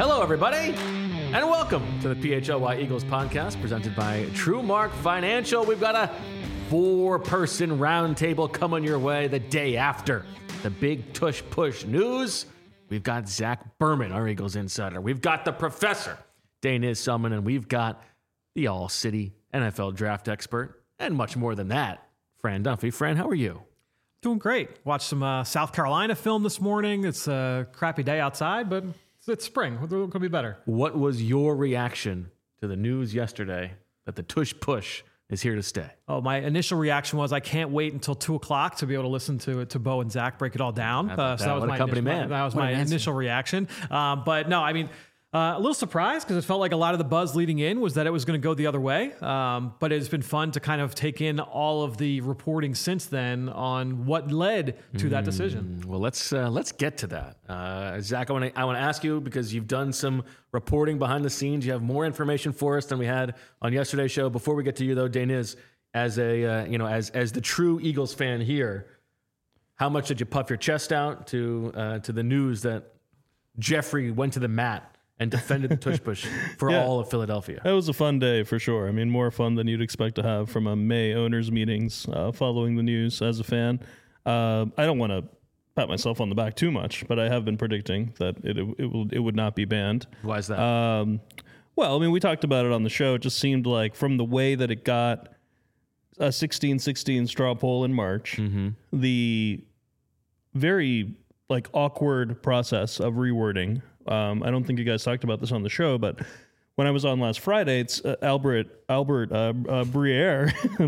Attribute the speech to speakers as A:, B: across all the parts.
A: Hello, everybody, and welcome to the PHLY Eagles podcast presented by TrueMark Financial. We've got a 4-person roundtable coming your way the day after the big tush push news. We've got Zach Berman, our Eagles insider. We've got the professor, Daniz Selman, and we've got the all-city NFL draft expert, and much more than that, Fran Dunphy. Fran, how are you?
B: Doing great. Watched some South Carolina film this morning. It's a crappy day outside, but it's spring. It could be better.
A: What was your reaction to the news yesterday that the tush push is here to stay?
B: Oh, my initial reaction was I can't wait until 2 o'clock to be able to listen to Bo and Zach break it all down.
A: So that was
B: my initial reaction. But no, I mean, a little surprised because it felt like a lot of the buzz leading in was that it was going to go the other way. But it's been fun to kind of take in all of the reporting since then on what led to that decision.
A: Well, let's get to that. Zach, I want to ask you, because you've done some reporting behind the scenes. You have more information for us than we had on yesterday's show. Before we get to you, though, Daniz, as a as the true Eagles fan here, how much did you puff your chest out to the news that Jeffrey went to the mat and defended the tush push for all of Philadelphia?
C: It was a fun day for sure. I mean, more fun than you'd expect to have from a May owners meetings following the news as a fan. I don't want to pat myself on the back too much, but I have been predicting that it would not be banned.
A: Why is that?
C: Well, I mean, we talked about it on the show. It just seemed like from the way that it got a 16-16 straw poll in March, the very awkward process of rewording. I don't think you guys talked about this on the show, but when I was on last Friday, it's Albert Breer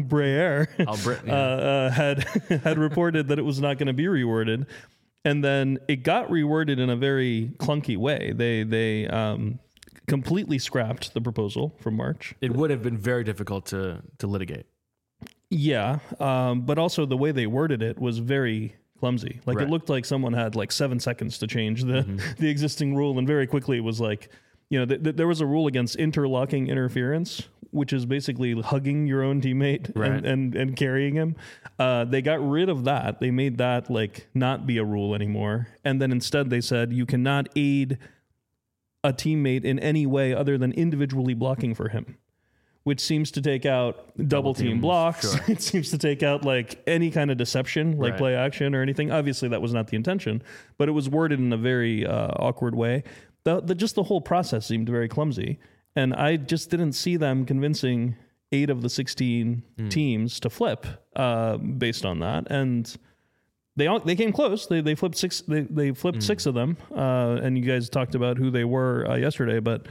C: had reported that it was not going to be reworded, and then it got reworded in a very clunky way. They completely scrapped the proposal from March.
A: It would have been very difficult to litigate.
C: Yeah, but also the way they worded it was very clumsy. Right. It looked like someone had 7 seconds to change the existing rule, and very quickly it was there was a rule against interlocking interference, which is basically hugging your own teammate and carrying him. They got rid of that. They made that not be a rule anymore, and then instead they said you cannot aid a teammate in any way other than individually blocking for him, which seems to take out double team blocks. Sure. It seems to take out any kind of deception, play action or anything. Obviously, that was not the intention, but it was worded in a very awkward way. Just the whole process seemed very clumsy, and I just didn't see them convincing 8 of the 16 teams to flip based on that. And they came close. They flipped 6. They flipped 6 of them, and you guys talked about who they were yesterday, but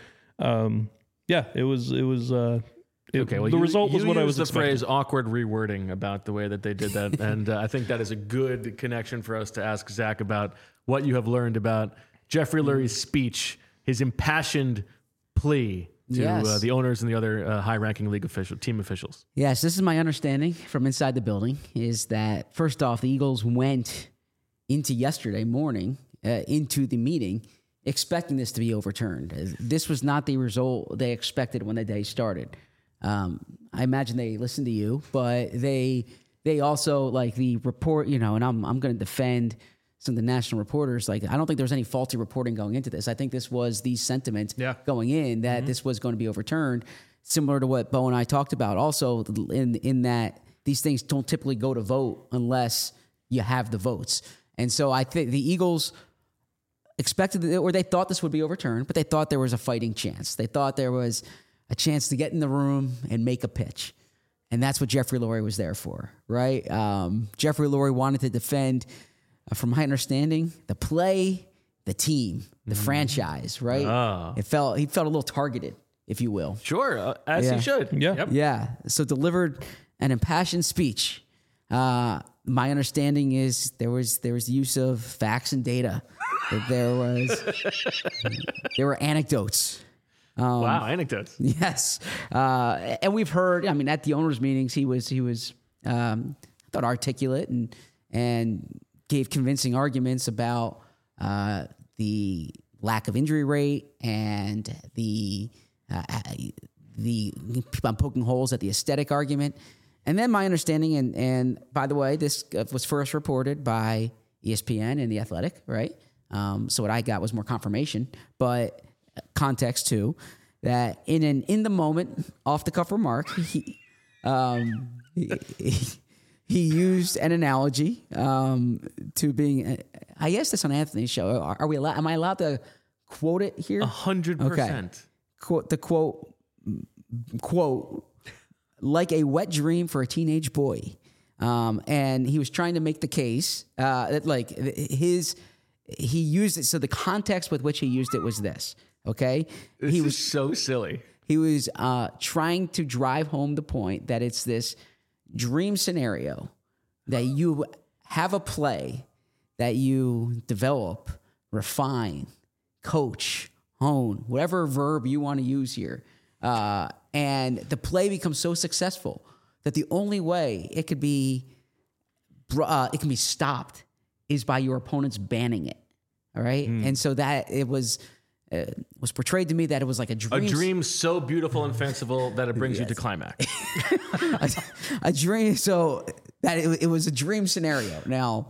C: it was.
A: Okay, well, the result was what I was expecting. The phrase awkward rewording about the way that they did that, and I think that is a good connection for us to ask Zach about what you have learned about Jeffrey Lurie's speech, his impassioned plea to the owners and the other high-ranking league team officials.
D: Yes, this is my understanding from inside the building, is that, first off, the Eagles went into yesterday morning, into the meeting, expecting this to be overturned. This was not the result they expected when the day started. I imagine they listened to you, but they also the report, and I'm going to defend some of the national reporters. I don't think there was any faulty reporting going into this. I think this was the sentiment going in that this was going to be overturned, similar to what Bo and I talked about. Also, in that these things don't typically go to vote unless you have the votes. And so I think the Eagles expected, or they thought this would be overturned, but they thought there was a fighting chance. They thought there was a chance to get in the room and make a pitch. And that's what Jeffrey Lurie was there for, right? Jeffrey Lurie wanted to defend, from my understanding, the play, the team, the franchise, right? He felt a little targeted, if you will.
A: Sure, as he should.
C: Yeah.
A: Yep.
D: Yeah. So delivered an impassioned speech. My understanding is there was the use of facts and data. There were anecdotes.
A: Wow, anecdotes.
D: Yes. And we've heard, at the owners' meetings, he was I thought, articulate and gave convincing arguments about the lack of injury rate and the I'm poking holes at the aesthetic argument. And then my understanding, and by the way, this was first reported by ESPN and The Athletic, right? So what I got was more confirmation. But context too, that in the moment, off the cuff remark, he used an analogy to being. I guess that's on Anthony's show. Are we allowed? Am I allowed to quote it here?
A: 100%.
D: Quote, like a wet dream for a teenage boy. And he was trying to make the case that he used it. So the context with which he used it was this. Okay,
A: He was so silly.
D: He was trying to drive home the point that it's this dream scenario that you have a play that you develop, refine, coach, hone, whatever verb you want to use here. And the play becomes so successful that the only way it can be stopped is by your opponents banning it. All right. And so that it was portrayed to me that it was like a dream.
A: A dream so beautiful and fanciful that it brings you to climax.
D: a dream. So that it was a dream scenario. Now,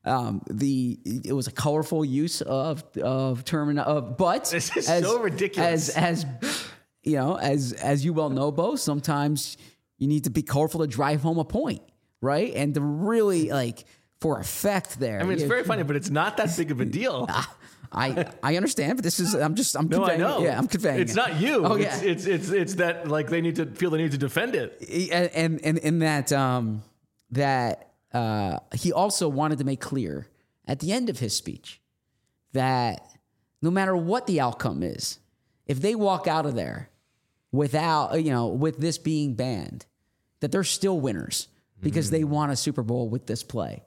D: it was a colorful use of term but
A: this is so ridiculous.
D: As you know, as you well know, Bo, sometimes you need to be colorful to drive home a point, right? And to really for effect there.
A: I mean, it's very funny, but it's not that big of a deal.
D: I understand, but I'm
A: no,
D: conveying.
A: I know.
D: Yeah, I'm conveying.
A: It's not you.
D: Oh, yeah.
A: It's that they need to feel the need to defend it.
D: And in that he also wanted to make clear at the end of his speech that no matter what the outcome is, if they walk out of there without, with this being banned, that they're still winners because they won a Super Bowl with this play.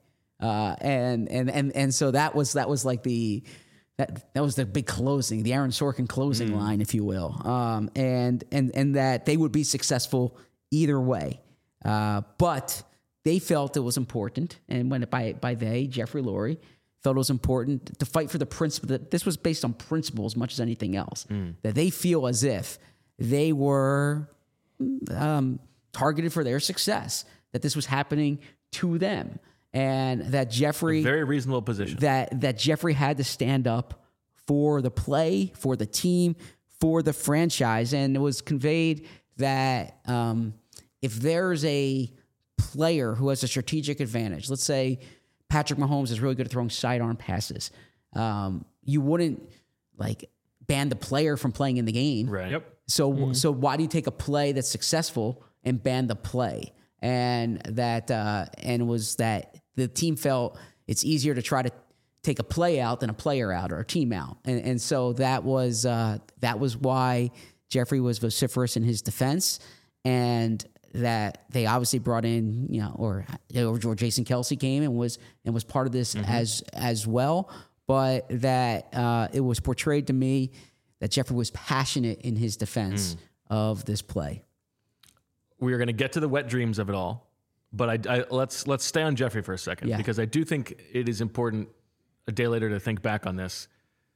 D: And so that was like that was the big closing, the Aaron Sorkin closing line, if you will. And that they would be successful either way. But they felt it was important. And when by they, Jeffrey Lurie, felt it was important to fight for the principle that this was based on principle as much as anything else, that they feel as if they were targeted for their success, that this was happening to them. And that Jeffrey,
A: a very reasonable position,
D: that Jeffrey had to stand up for the play, for the team, for the franchise. And it was conveyed that if there's a player who has a strategic advantage, let's say Patrick Mahomes is really good at throwing sidearm passes, you wouldn't ban the player from playing in the game.
A: right? Yep.
D: So why do you take a play that's successful and ban the play? And that was that the team felt it's easier to try to take a play out than a player out or a team out, and so that was why Jeffrey was vociferous in his defense, and that they obviously brought in or Jason Kelce came and was part of this as well, but that it was portrayed to me that Jeffrey was passionate in his defense of this play.
A: We are going to get to the wet dreams of it all, but let's stay on Jeffrey for a second, because I do think it is important a day later to think back on this.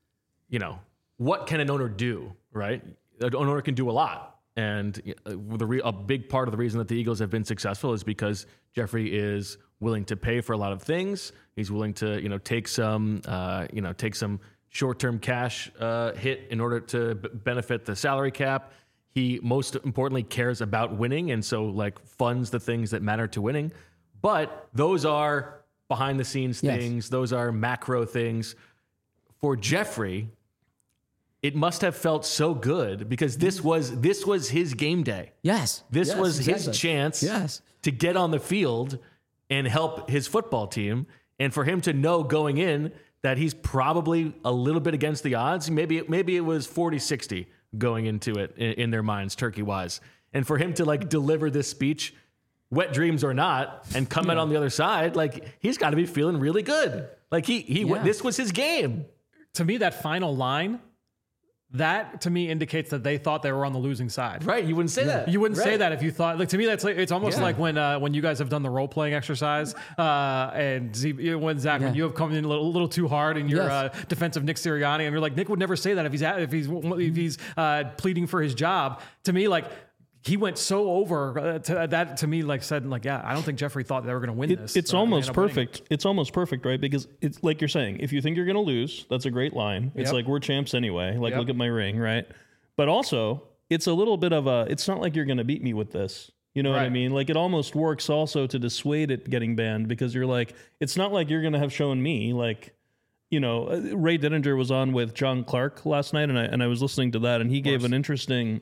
A: What can an owner do, right? An owner can do a lot. And a big part of the reason that the Eagles have been successful is because Jeffrey is willing to pay for a lot of things. He's willing to, take some short-term cash hit in order to benefit the salary cap. He most importantly cares about winning, and so funds the things that matter to winning. But those are behind the scenes things. Yes. Those are macro things. For Jeffrey, it must have felt so good because this was his game day.
D: Yes.
A: This was his chance to get on the field and help his football team. And for him to know going in that he's probably a little bit against the odds, maybe it was 40-60 going into it in their minds, turkey-wise. And for him to deliver this speech, wet dreams or not, and come out on the other side, he's got to be feeling really good. This was his game.
B: To me, that final line, that to me indicates that they thought they were on the losing side.
A: Right. You wouldn't say that.
B: You wouldn't say that if you thought, to me, that's it's almost like when you guys have done the role playing exercise, and when Zach, when you have come in a little too hard in your defense of Nick Sirianni, and you're like, Nick would never say that if he's pleading for his job. To me, he went so over that to me, like said, like, yeah, I don't think Jeffrey thought they were going to win this.
C: It's almost perfect. It's almost perfect, right? Because it's like you're saying, if you think you're going to lose, that's a great line. It's like, we're champs anyway. Like, look at my ring, right? But also, it's a little bit of it's not like you're going to beat me with this. You know what I mean? Like, it almost works also to dissuade it getting banned, because you're like, it's not like you're going to have shown me, like, you know, Ray Didinger was on with John Clark last night, and I was listening to that, and he gave an interesting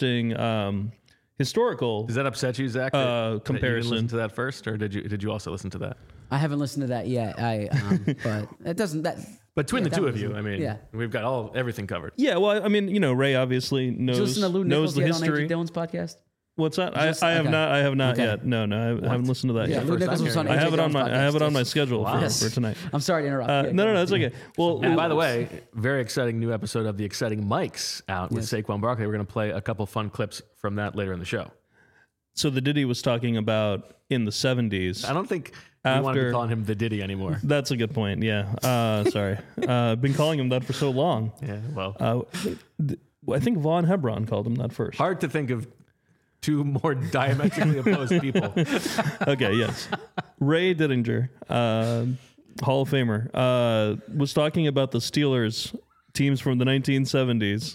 C: historical.
A: Does that upset you, Zach?
C: Comparison.
A: That you didn't listen to that first, or did you also listen to that?
D: I haven't listened to that yet. But it doesn't.
A: But between the two of you, I mean, we've got everything covered.
C: Yeah, well, I mean, you know, Ray obviously knows.
D: Did you listen to Lou
C: knows
D: Nichols
C: the
D: yet
C: history.
D: on Andrew Dillon's podcast?
C: What's that? I have not
D: Okay.
C: yet. No, I haven't listened to that
D: Yeah,
C: yet.
D: Lou Nichols was on
C: I have
D: AJ
C: it on
D: Dillon's
C: my I have it on my
D: podcast.
C: schedule for tonight.
D: I'm sorry to interrupt.
C: No, that's okay. Well,
A: And by the way, very exciting new episode of The Exciting Mics out with Saquon Barkley. We're going to play a couple fun clips from that later in the show.
C: so the Diddy was talking about in the 70s.
A: I don't think we want to be calling him the Diddy anymore.
C: That's a good point. Yeah. Sorry. Been calling him that for so long.
A: Yeah, well.
C: I think Von Hebron called him that first.
A: Hard to think of two more diametrically opposed people.
C: Okay, yes. Ray Didinger, Hall of Famer, was talking about the Steelers teams from the 1970s.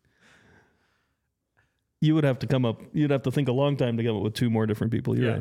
C: You would have to you'd have to think a long time to come up with two more different people. You're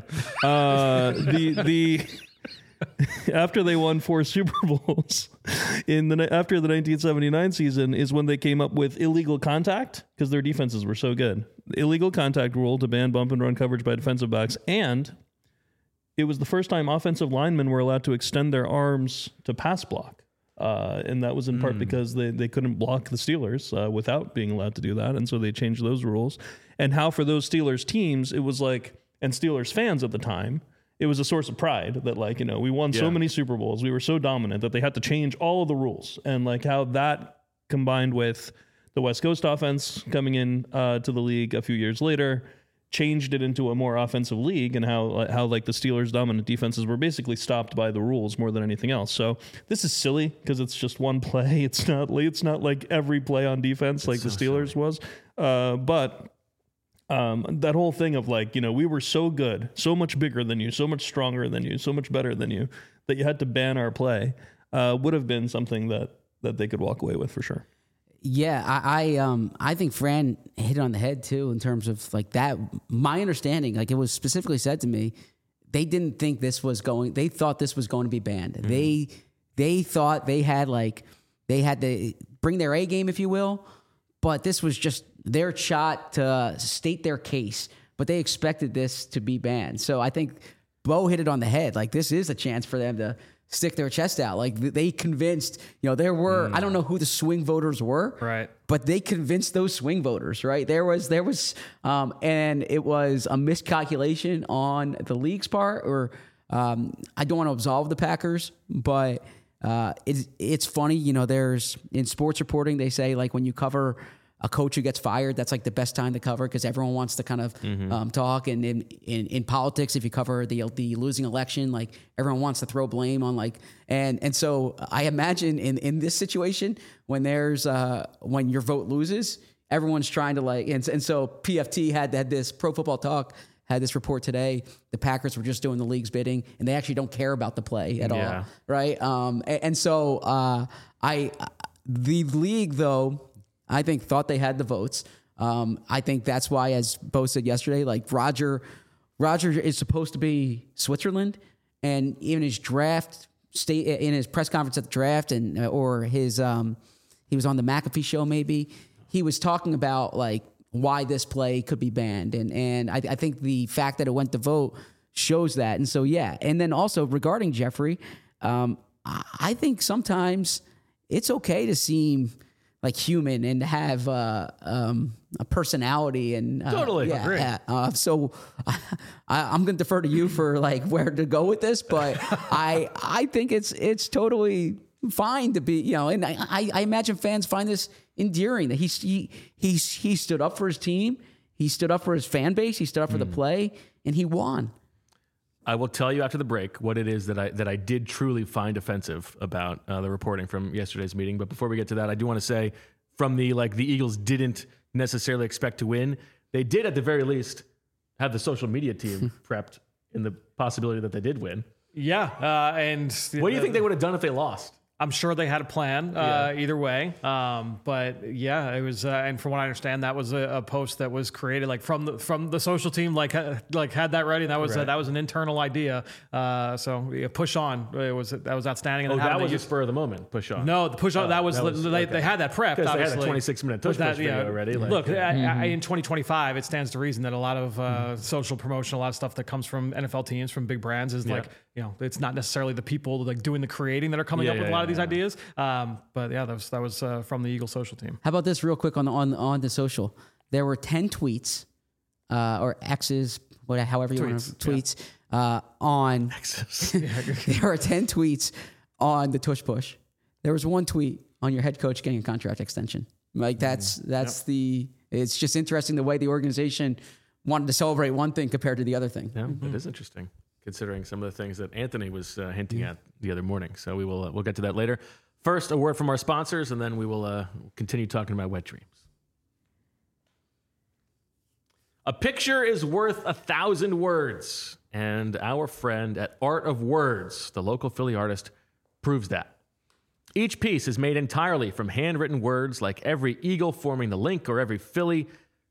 C: right. After they won 4 Super Bowls after the 1979 season is when they came up with illegal contact, because their defenses were so good. The illegal contact rule to ban bump and run coverage by defensive backs, and it was the first time offensive linemen were allowed to extend their arms to pass block. And that was in part because they couldn't block the Steelers without being allowed to do that. And so they changed those rules. And how for those Steelers teams, it was like, and Steelers fans at the time, it was a source of pride that, like, you know, we won so many Super Bowls, we were so dominant that they had to change all of the rules. And like how that combined with the West Coast offense coming in to the league a few years later, changed it into a more offensive league, and how like the Steelers' dominant defenses were basically stopped by the rules more than anything else. So this is silly because it's just one play. It's not like every play on defense like the Steelers was. But that whole thing of, like, you know, we were so good, so much bigger than you, so much stronger than you, so much better than you, that you had to ban our play, would have been something that they could walk away with for sure.
D: Yeah, I think Fran hit it on the head too in terms of like that. My understanding, like it was specifically said to me, they didn't think this was going. They thought this was going to be banned. Mm-hmm. They thought they had to bring their A game, if you will, but this was just their shot to state their case. But they expected this to be banned. So I think Bo hit it on the head. Like, this is a chance for them to stick their chest out. Like, they convinced, you know, there were, I don't know who the swing voters were,
B: right?
D: But they convinced those swing voters, right? There was, and it was a miscalculation on the league's part, or I don't want to absolve the Packers, but it's funny, you know, there's, in sports reporting, they say, like, when you cover a coach who gets fired, that's like the best time to cover because everyone wants to kind of talk. And in politics, if you cover the losing election, like everyone wants to throw blame on and so I imagine in this situation when there's when your vote loses, everyone's trying to and so PFT had this Pro Football Talk had this report today. The Packers were just doing the league's bidding, and they actually don't care about the play at all, right? And so the league though, I think thought they had the votes. I think that's why, as Bo said yesterday, like Roger is supposed to be Switzerland, and even his draft in his press conference at the draft, and or his he was on the McAfee show maybe. He was talking about like why this play could be banned, and I think the fact that it went to vote shows that. And so and then also regarding Jeffrey, I think sometimes it's okay to seem like human and have a personality and
A: totally agree.
D: So I'm going to defer to you for like where to go with this, but I think it's totally fine to be, you know, and I imagine fans find this endearing that he stood up for his team, he stood up for his fan base, he stood up for the play, and he won.
A: I will tell you after the break what it is that I did truly find offensive about the reporting from yesterday's meeting. But before we get to that, I do want to say from the Eagles didn't necessarily expect to win. they did at the very least have the social media team prepped in the possibility that they did win.
B: Yeah. And
A: what do you think they would have done if they lost?
B: I'm sure they had a plan either way. But yeah, it was, and from what I understand, that was a post that was created like from the social team, like had that ready. That was that was an internal idea. So yeah, push on. That was outstanding.
A: And that was a spur of the moment. Push on.
B: No, the push on. They had that prepped.
A: Because they had a 26-minute push video already.
B: Look, in 2025, it stands to reason that a lot of social promotion, a lot of stuff that comes from NFL teams, from big brands, is like, it's not necessarily the people like doing the creating that are coming up with a lot of these ideas. But yeah, that was from the Eagles social team.
D: How about this real quick on the social? There were 10 tweets or X's, however you want to tweets on. X's. There are 10 tweets on the tush push. There was one tweet on your head coach getting a contract extension. Like that's it's just interesting the way the organization wanted to celebrate one thing compared to the other thing.
A: Yeah, it is interesting, considering some of the things that Anthony was hinting at the other morning. So we'll get to that later. First, a word from our sponsors, and then we will continue talking about wet dreams. A picture is worth 1,000 words, and our friend at Art of Words, the local Philly artist, proves that. Each piece is made entirely from handwritten words, like every eagle forming the link or every Philly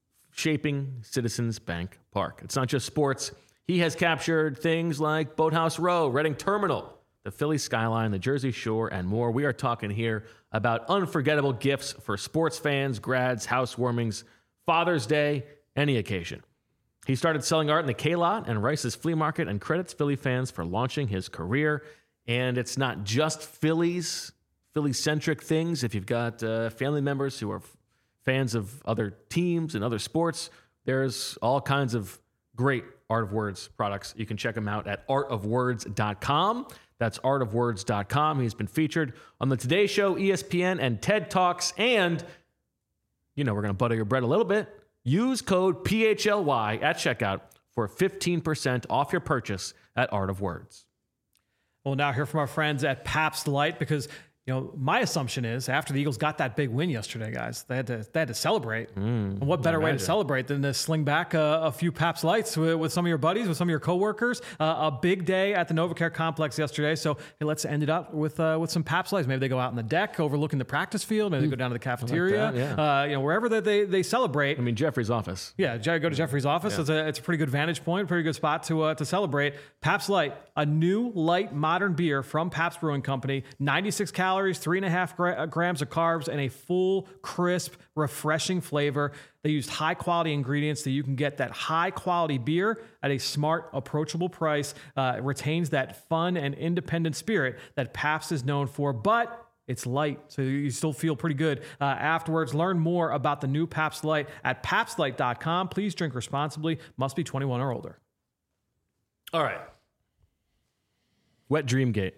A: shaping Citizens Bank Park. It's not just sports. He has captured things like Boathouse Row, Reading Terminal, the Philly skyline, the Jersey Shore, and more. We are talking here about unforgettable gifts for sports fans, grads, housewarmings, Father's Day, any occasion. He started selling art in the K-Lot and Rice's Flea Market and credits Philly fans for launching his career. And it's not just Philly-centric things. If you've got family members who are fans of other teams and other sports, there's all kinds of great Art of Words products. You can check him out at artofwords.com. That's artofwords.com. He's been featured on the Today Show, ESPN, and TED Talks. And, we're going to butter your bread a little bit. Use code PHLY at checkout for 15% off your purchase at Art of Words.
B: We'll now hear from our friends at Pabst Light, because my assumption is after the Eagles got that big win yesterday, guys, they had to celebrate. And what better way to celebrate than to sling back a few Pabst Lights with some of your buddies, with some of your coworkers? A big day at the NovaCare complex yesterday. So hey, let's end it up with some Pabst Lights. Maybe they go out on the deck overlooking the practice field. Maybe they go down to the cafeteria. Like wherever they celebrate.
A: I mean, Jeffrey's office.
B: Yeah, go to Jeffrey's office. Yeah. It's a pretty good vantage point, pretty good spot to celebrate. Pabst Light, a new light modern beer from Pabst Brewing Company, 96 calories, 3.5 grams of carbs, and a full, crisp, refreshing flavor. They used high-quality ingredients so you can get that high-quality beer at a smart, approachable price. It retains that fun and independent spirit that Pabst is known for, but it's light, so you still feel pretty good afterwards. Learn more about the new Pabst Light at PabstLight.com. Please drink responsibly. Must be 21 or older.
A: All right. Wet Dreamgate.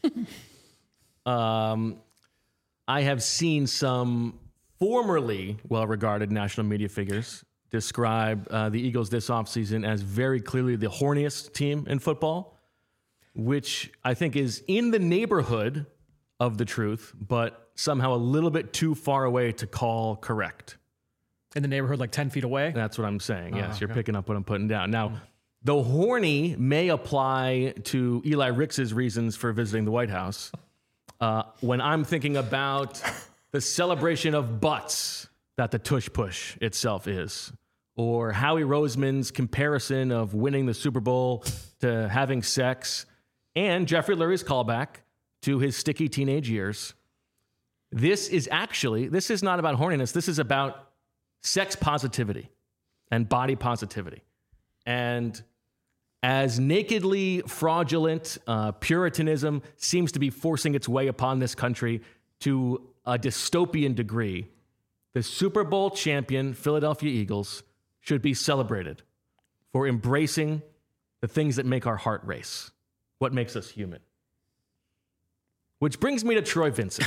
A: I have seen some formerly well-regarded national media figures describe the Eagles this offseason as very clearly the horniest team in football, which I think is in the neighborhood of the truth, but somehow a little bit too far away to call correct.
B: In the neighborhood, like 10 feet away?
A: That's what I'm saying. Yes, you're picking up what I'm putting down. Now, the horny may apply to Eli Ricks's reasons for visiting the White House. When I'm thinking about the celebration of butts that the tush push itself is, or Howie Roseman's comparison of winning the Super Bowl to having sex, and Jeffrey Lurie's callback to his sticky teenage years, this is not about horniness. This is about sex positivity and body positivity. And as nakedly fraudulent Puritanism seems to be forcing its way upon this country to a dystopian degree, the Super Bowl champion Philadelphia Eagles should be celebrated for embracing the things that make our heart race, what makes us human. Which brings me to Troy Vincent.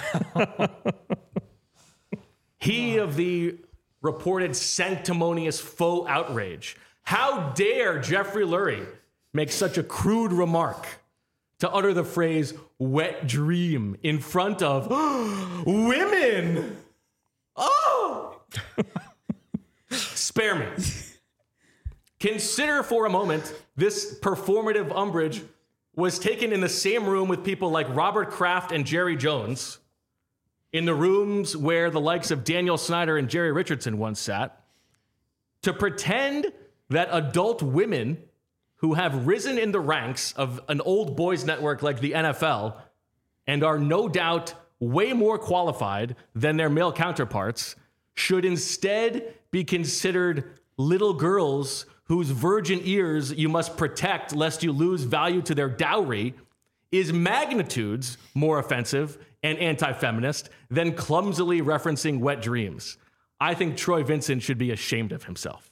A: He of the reported sanctimonious faux outrage. How dare Jeffrey Lurie make such a crude remark to utter the phrase wet dream in front of women? Oh! Spare me. Consider for a moment this performative umbrage was taken in the same room with people like Robert Kraft and Jerry Jones, in the rooms where the likes of Daniel Snyder and Jerry Richardson once sat, to pretend that adult women who have risen in the ranks of an old boys network like the NFL and are no doubt way more qualified than their male counterparts should instead be considered little girls whose virgin ears you must protect lest you lose value to their dowry, is magnitudes more offensive and anti-feminist than clumsily referencing wet dreams. I think Troy Vincent should be ashamed of himself.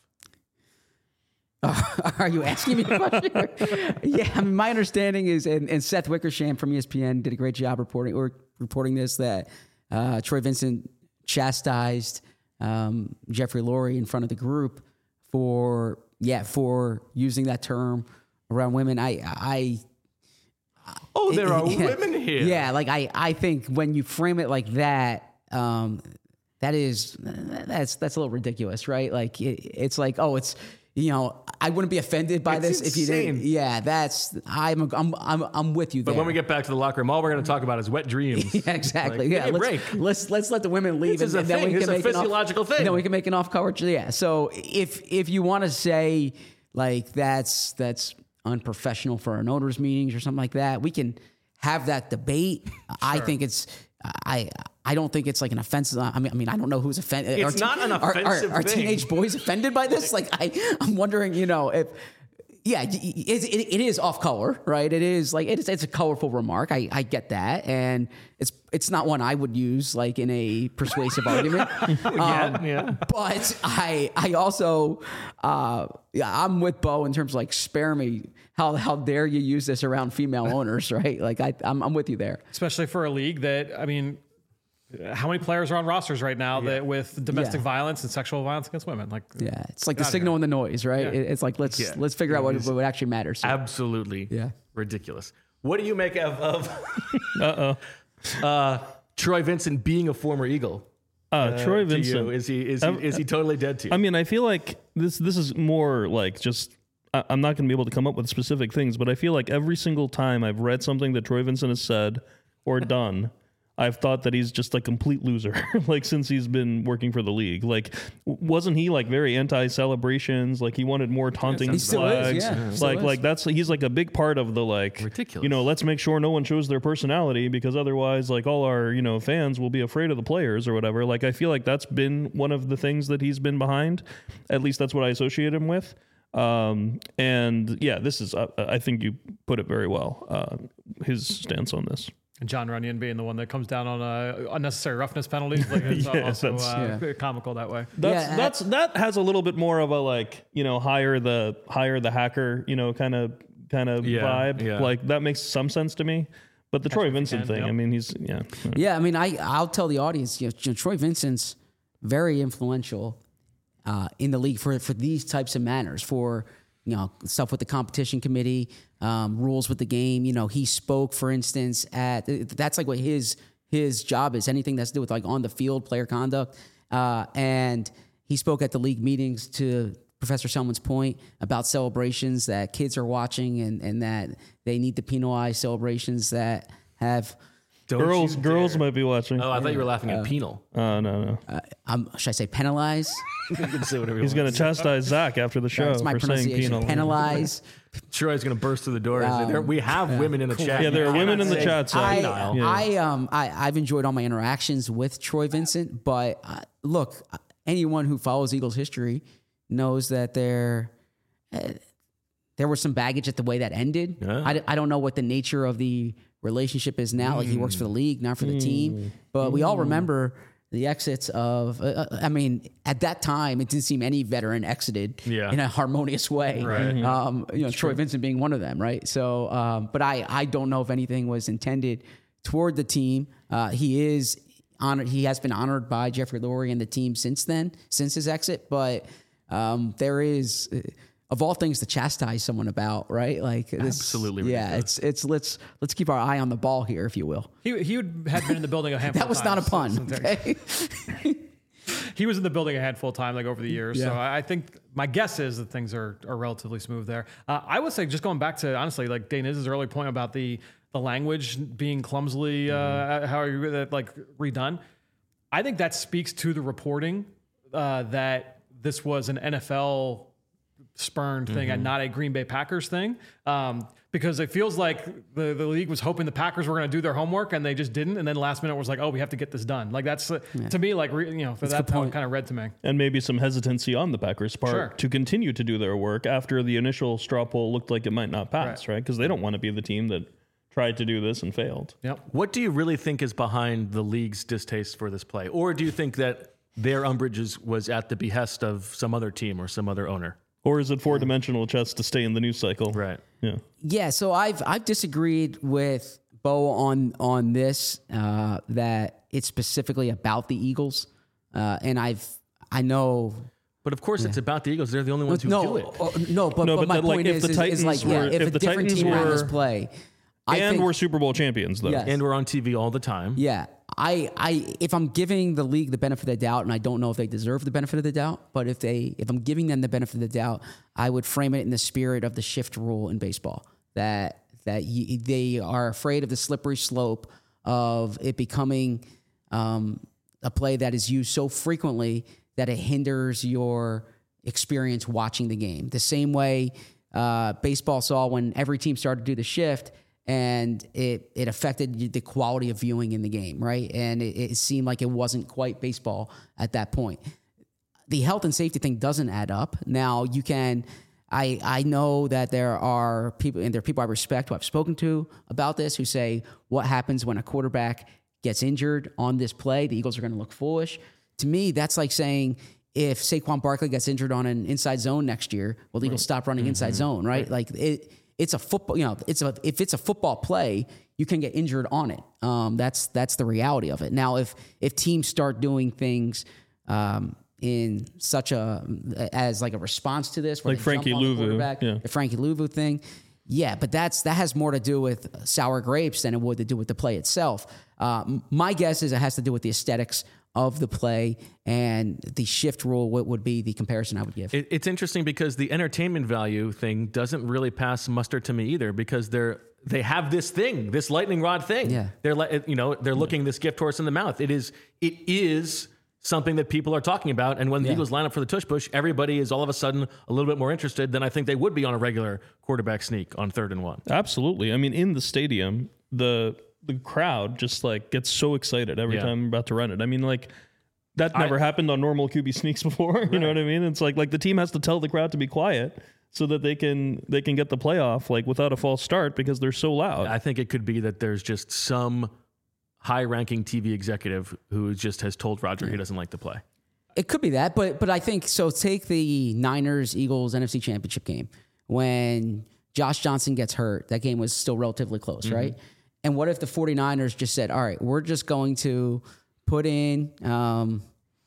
D: Are you asking me a question? Yeah, I mean, my understanding is, and Seth Wickersham from ESPN did a great job reporting this, that Troy Vincent chastised Jeffrey Lurie in front of the group for using that term around women. there
A: are women here.
D: Yeah, like I think when you frame it like that, that's a little ridiculous, right? Like it's like, oh, it's, you know, I wouldn't be offended by this if you didn't. Yeah, I'm with you there.
A: But when we get back to the locker room, all we're going to talk about is wet dreams.
D: Yeah, exactly.
A: Like,
D: let's let the women leave,
A: and then we can make a physiological thing.
D: And then we can make an off coverage. Yeah. So if you want to say like that's unprofessional for an owners meetings or something like that, we can have that debate. Sure. I think it's I don't think it's like an offensive. I mean, I don't know who's offended.
A: It's not an offensive
D: Are
A: thing.
D: teenage boys offended by this? Like, I'm wondering, you know, if, yeah, it is off color, right? It is like, it's a colorful remark. I get that. And it's not one I would use like in a persuasive argument.
A: Yeah.
D: But I also, I'm with Bo in terms of like, spare me. How dare you use this around female owners, right? Like I'm with you there.
B: Especially for a league that, I mean, how many players are on rosters right now that with domestic violence and sexual violence against women? Like,
D: it's like the signal and the noise, right? Yeah. It's like let's figure out what actually matters. So.
A: Absolutely, ridiculous. What do you make of Troy Vincent being a former Eagle?
C: Troy Vincent,
A: is he totally dead to you?
C: I mean, I feel like this is more like just. I'm not going to be able to come up with specific things, but I feel like every single time I've read something that Troy Vincent has said or done, I've thought that he's just a complete loser, like since he's been working for the league. Like, wasn't he like very anti-celebrations? Like he wanted more taunting flags. He's like a big part of the like,
A: ridiculous.
C: You know, let's make sure no one shows their personality because otherwise like all our, you know, fans will be afraid of the players or whatever. Like, I feel like that's been one of the things that he's been behind. At least that's what I associate him with. And yeah, this is, I think you put it very well, his stance on this.
B: And John Runyon being the one that comes down on unnecessary roughness penalties. Like it's also comical that way.
C: That has a little bit more of a like, you know, hire the hacker, you know, kind of vibe. Yeah. Like that makes some sense to me. But the Troy Vincent thing, I mean, he's,
D: I mean, I'll tell the audience, you know, Troy Vincent's very influential in the league for these types of manners, for, you know, stuff with the competition committee, rules with the game. You know, he spoke, for instance, that's like what his job is, anything that's to do with like on the field player conduct. And he spoke at the league meetings to Professor Selman's point about celebrations that kids are watching and that they need to penalize celebrations that have...
C: Girls might be watching.
A: Oh, I thought you were laughing at penal.
C: No.
D: Should I say penalize?
A: You can say whatever you
C: He's going to chastise Zach after the show for saying penal.
D: Penalize.
A: Troy's going to burst through the door. We have women in the chat.
C: Yeah, there are women in the chat. So
D: I've enjoyed all my interactions with Troy Vincent, but look, anyone who follows Eagles history knows that there was some baggage at the way that ended. Yeah. I don't know what the nature of the relationship is now. Like he works for the league, not for the team. But we all remember the exits of, I mean, at that time, it didn't seem any veteran exited in a harmonious way.
A: Right.
D: You know, Troy Vincent being one of them, right? So, but I don't know if anything was intended toward the team. He is honored. He has been honored by Jeffrey Lurie and the team since his exit. But there is... of all things to chastise someone about, right? Like this,
A: absolutely,
D: ridiculous. It's let's keep our eye on the ball here, if you will.
B: He had been in the building a handful.
D: That was
B: of
D: not a
B: times,
D: pun. Okay?
B: he was in the building a handful of times, like over the years. So I think my guess is that things are relatively smooth there. I would say, just going back to, honestly, like Dane Iz's early point about the language being clumsily, how are you like redone? I think that speaks to the reporting that this was an NFL spurned thing and not a Green Bay Packers thing. Because it feels like the league was hoping the Packers were going to do their homework and they just didn't. And then last minute was like, oh, we have to get this done. Like that's to me, like, that's how it kind of read to me.
C: And maybe some hesitancy on the Packers' part to continue to do their work after the initial straw poll looked like it might not pass, right? Because they don't want to be the team that tried to do this and failed.
B: Yep.
A: What do you really think is behind the league's distaste for this play? Or do you think that their umbrage was at the behest of some other team or some other owner?
C: Or is it four-dimensional chess to stay in the news cycle?
A: Right.
C: Yeah.
D: Yeah. So I've disagreed with Bo on this, that it's specifically about the Eagles. And I know.
A: But of course, it's about the Eagles. They're the only ones who do it.
D: But my point is, if a different team ran this play,
C: we're Super Bowl champions, though.
D: Yes.
A: And we're on TV all the time.
D: Yeah. If I'm giving the league the benefit of the doubt, and I don't know if they deserve the benefit of the doubt, but if I'm giving them the benefit of the doubt, I would frame it in the spirit of the shift rule in baseball, that they are afraid of the slippery slope of it becoming a play that is used so frequently that it hinders your experience watching the game. The same way baseball saw when every team started to do the shift, and it affected the quality of viewing in the game, right? And it seemed like it wasn't quite baseball at that point. The health and safety thing doesn't add up. Now, you can... I know that there are people, and there are people I respect who I've spoken to about this, who say, what happens when a quarterback gets injured on this play? The Eagles are going to look foolish. To me, that's like saying, if Saquon Barkley gets injured on an inside zone next year, well, the Eagles stop running inside zone, right? Like it's a football, if it's a football play, you can get injured on it. That's the reality of it. Now, if teams start doing things in such as like a response to this,
C: like Frankie Louvu,
D: the Frankie Louvu thing, but that has more to do with sour grapes than it would to do with the play itself. My guess is it has to do with the aesthetics of the play, and the shift rule would be the comparison I would give.
A: It's interesting because the entertainment value thing doesn't really pass muster to me either, because they have this thing, this lightning rod thing.
D: Yeah.
A: They're looking this gift horse in the mouth. It is something that people are talking about, and when the Eagles line up for the tush push, everybody is all of a sudden a little bit more interested than I think they would be on a regular quarterback sneak on 3rd and 1.
C: Absolutely. I mean, in the stadium, the crowd just like gets so excited every time I'm about to run it. I mean, like that never happened on normal QB sneaks before. You know what I mean? It's like the team has to tell the crowd to be quiet so that they can get the playoff like without a false start because they're so loud.
A: I think it could be that there's just some high-ranking TV executive who just has told Roger he doesn't like the play.
D: It could be that, but I think so. Take the Niners-Eagles NFC Championship game when Josh Johnson gets hurt. That game was still relatively close, right? And what if the 49ers just said, all right, we're just going to put in, Kittle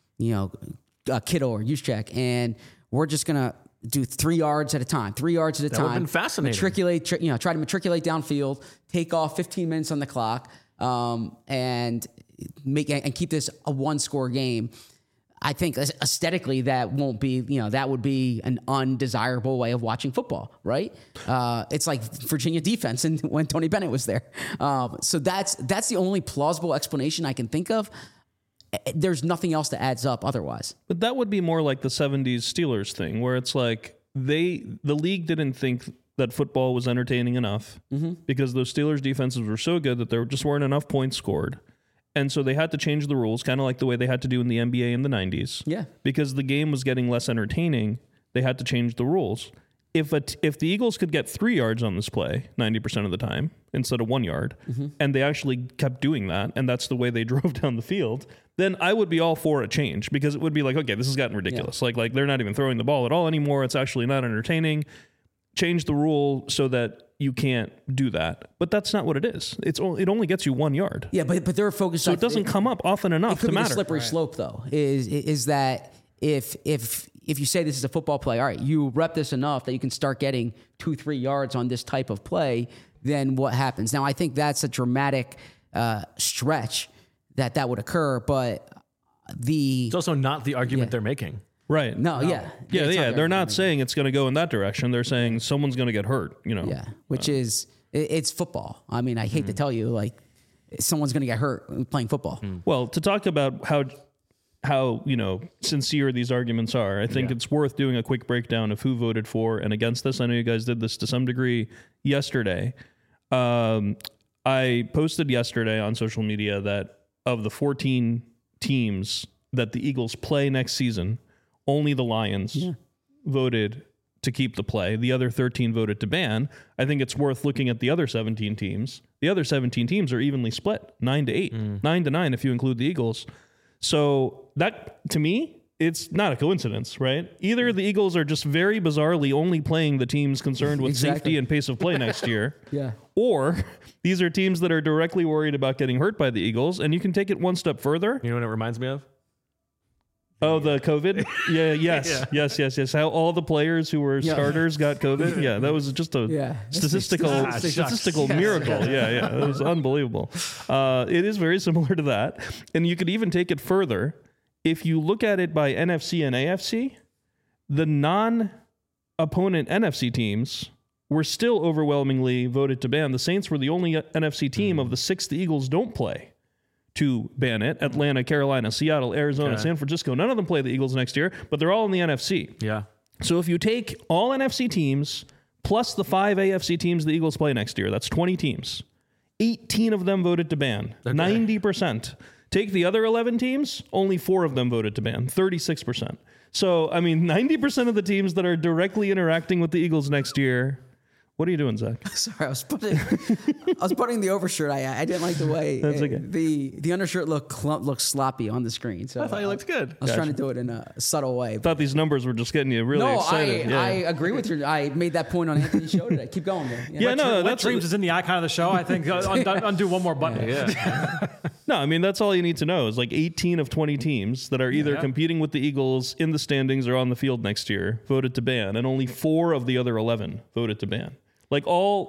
D: or Juszczyk, and we're just going to do 3 yards at a time, 3 yards at a time.
A: That would have been fascinating.
D: Try to matriculate downfield, take off 15 minutes on the clock, and keep this a 1-score game. I think aesthetically that won't be, that would be an undesirable way of watching football, right? It's like Virginia defense and when Tony Bennett was there. So that's the only plausible explanation I can think of. There's nothing else that adds up otherwise.
C: But that would be more like the 70s Steelers thing, where it's like the league didn't think that football was entertaining enough because those Steelers defenses were so good that there just weren't enough points scored. And so they had to change the rules, kind of like the way they had to do in the NBA in the 90s.
D: Yeah.
C: Because the game was getting less entertaining, they had to change the rules. If the Eagles could get 3 yards on this play 90% of the time instead of 1 yard, and they actually kept doing that, and that's the way they drove down the field, then I would be all for a change, because it would be like, okay, this has gotten ridiculous. Yeah. Like they're not even throwing the ball at all anymore. It's actually not entertaining. Change the rule so that you can't do that. But that's not what it is. It only gets you 1 yard.
D: Yeah, but they're focused on...
C: So it doesn't come up often enough to matter.
D: The slippery slope, though, is that if you say this is a football play, all right, you rep this enough that you can start getting 2-3 yards on this type of play, then what happens? Now, I think that's a dramatic stretch that would occur, but
A: It's also not the argument they're making.
C: Right.
D: No, yeah.
C: Yeah. They're not saying it's going to go in that direction. They're saying someone's going to get hurt,
D: Yeah, which is, it's football. I mean, I hate to tell you, like, someone's going to get hurt playing football.
C: Well, to talk about how sincere these arguments are, I think it's worth doing a quick breakdown of who voted for and against this. I know you guys did this to some degree yesterday. I posted yesterday on social media that of the 14 teams that the Eagles play next season, only the Lions voted to keep the play. The other 13 voted to ban. I think it's worth looking at the other 17 teams. The other 17 teams are evenly split, 9-8, 9-9 if you include the Eagles. So that, to me, it's not a coincidence, right? Either the Eagles are just very bizarrely only playing the teams concerned with safety and pace of play next year, or these are teams that are directly worried about getting hurt by the Eagles, and you can take it one step further.
A: You know what it reminds me of?
C: Oh, the COVID? Yes. How all the players who were starters got COVID. Yeah, that was just a statistical miracle. Yeah, it was unbelievable. It is very similar to that. And you could even take it further. If you look at it by NFC and AFC, the non-opponent NFC teams were still overwhelmingly voted to ban. The Saints were the only NFC team of the 6 the Eagles don't play to ban it. Atlanta, Carolina, Seattle, Arizona, San Francisco. None of them play the Eagles next year, but they're all in the NFC.
A: Yeah.
C: So if you take all NFC teams plus the 5 AFC teams the Eagles play next year, that's 20 teams. 18 of them voted to ban. 90%. Take the other 11 teams, only 4 of them voted to ban. 36%. So, I mean, 90% of the teams that are directly interacting with the Eagles next year. What are you doing, Zach?
D: Sorry, I was putting the overshirt. I didn't like the way the undershirt looked sloppy on the screen. So
A: I thought you looked good.
D: I was trying to do it in a subtle way.
C: I thought these numbers were just getting you really excited.
D: I agree with you. I made that point on Anthony's show today. Keep going, man.
B: Wet Dreams is in the icon of the show. I think undo one more button.
C: No, I mean, that's all you need to know is like 18 of 20 teams that are either competing with the Eagles in the standings or on the field next year voted to ban, and only 4 of the other 11 voted to ban. The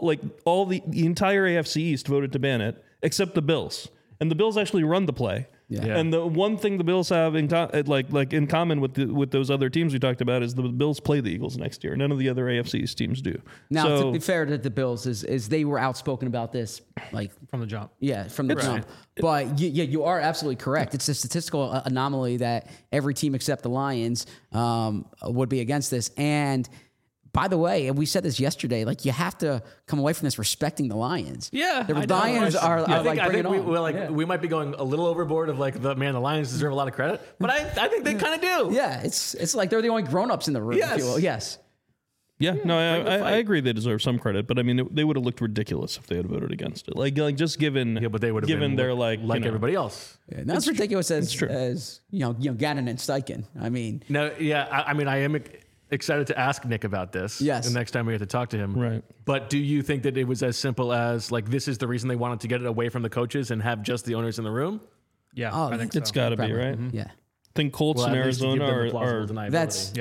C: entire AFC East voted to ban it, except the Bills. And the Bills actually run the play. Yeah. And the one thing the Bills have in common with those other teams we talked about is the Bills play the Eagles next year. None of the other AFC East teams do.
D: Now, to be fair to the Bills, is they were outspoken about this, like
B: from the jump.
D: Yeah, from the jump. But you are absolutely correct. It's a statistical anomaly that every team except the Lions would be against this. And by the way, and we said this yesterday, like you have to come away from this respecting the Lions.
A: Yeah,
D: the Lions are like bringing it on.
A: We might be going a little overboard of like the Lions deserve a lot of credit, but I think they kind of do.
D: Yeah, it's like they're the only grown-ups in the room.
A: Yes.
D: If you will. Yes.
C: Yeah, no, I agree they deserve some credit, but I mean they would have looked ridiculous if they had voted against it. Like just given,
A: but they would have
C: given
A: been
C: their
A: everybody else.
D: Yeah, that's ridiculous as Gannon and Steichen. I mean,
A: no, yeah, I mean I am excited to ask Nick about this.
D: Yes.
A: The next time we get to talk to him.
C: Right.
A: But do you think that it was as simple as like this is the reason they wanted to get it away from the coaches and have just the owners in the room?
B: Yeah,
D: I
B: think
C: it's got to be, right?
D: Mm-hmm. Yeah.
C: I think Colts in Arizona are
D: that's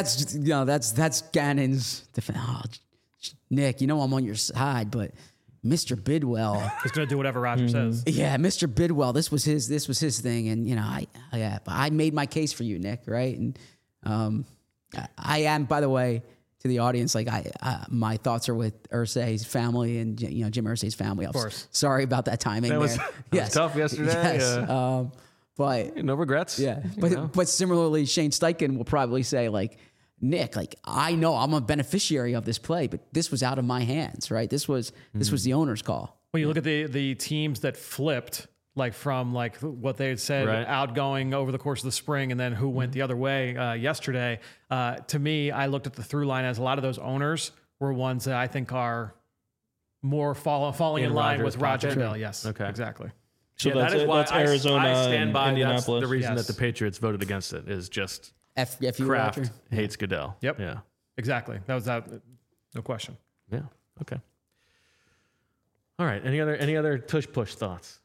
D: Gannon's defense. Oh, Nick, I'm on your side, but Mr. Bidwell
B: is going to do whatever Roger says.
D: Yeah, Mr. Bidwell, this was his thing, and I made my case for you, Nick, right? And I am, by the way, to the audience, like my thoughts are with Irsay's family and Jim Irsay's family. Of
A: course.
D: Sorry about that timing.
A: That was tough yesterday.
D: Yes.
A: Yeah.
D: But
A: no regrets.
D: Yeah. But similarly, Shane Steichen will probably say like, Nick, like I know I'm a beneficiary of this play, but this was out of my hands, right? This was the owner's call.
B: Well, you look at the teams that flipped. Like from like what they had said outgoing over the course of the spring and then who went the other way yesterday. To me, I looked at the through line as a lot of those owners were ones that I think are more falling in line with Roger Goodell. Yes. Okay. Exactly.
C: So that is why Arizona
A: I stand by
C: Indianapolis.
A: That's the reason that the Patriots voted against it is just Kraft
D: Roger.
A: hates Goodell.
B: Yep.
A: Yeah.
B: Exactly. That was that. No question.
A: Yeah. Okay. All right. Any other tush push thoughts?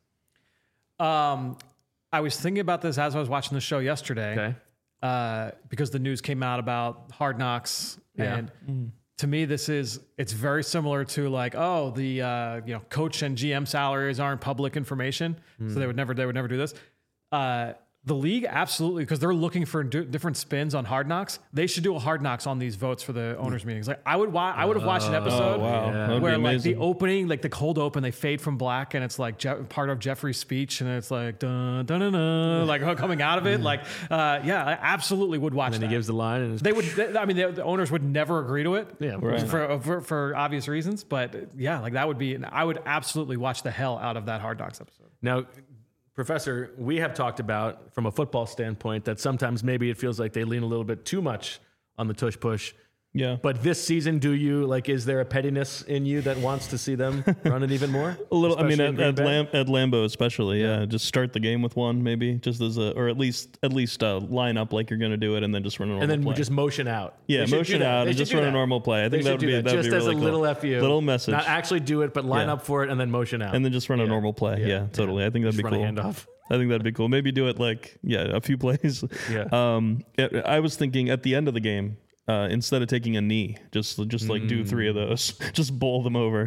B: I was thinking about this as I was watching the show yesterday, because the news came out about Hard Knocks, and to me, it's very similar to like, the coach and GM salaries aren't public information, so they would never do this. The league, absolutely, because they're looking for different spins on Hard Knocks. They should do a Hard Knocks on these votes for the owners' meetings. Like I would have watched an episode where like the opening, like the cold open, they fade from black, and it's like part of Jeffrey's speech, and it's like dun dun dun dun, like coming out of it. Like, I absolutely would watch.
A: And
B: that.
A: He gives the line, and
B: they would. The owners would never agree to it.
A: Yeah,
B: for obvious reasons. But yeah, like that would be. I would absolutely watch the hell out of that Hard Knocks episode.
A: Now, Professor, we have talked about, from a football standpoint, that sometimes maybe it feels like they lean a little bit too much on the tush push.
C: Yeah.
A: But this season, is there a pettiness in you that wants to see them run it even more?
C: A little. Especially at Lambeau especially. Yeah. Just start the game with one, maybe, just as or at least line up like you're going to do it, and then just run a normal play.
A: And then just motion out.
C: Yeah, motion out and just run a normal play. I think that would be
A: just as
C: really
A: a
C: cool.
A: little FU,
C: little message.
A: Not actually do it, but line up for it and then motion out,
C: and then just run a normal play. Yeah, totally. I think that'd be cool.
A: Run a handoff.
C: I think that'd be cool. Maybe do it a few plays.
A: Yeah.
C: I was thinking at the end of the game. Instead of taking a knee, just do 3 of those, just bowl them over,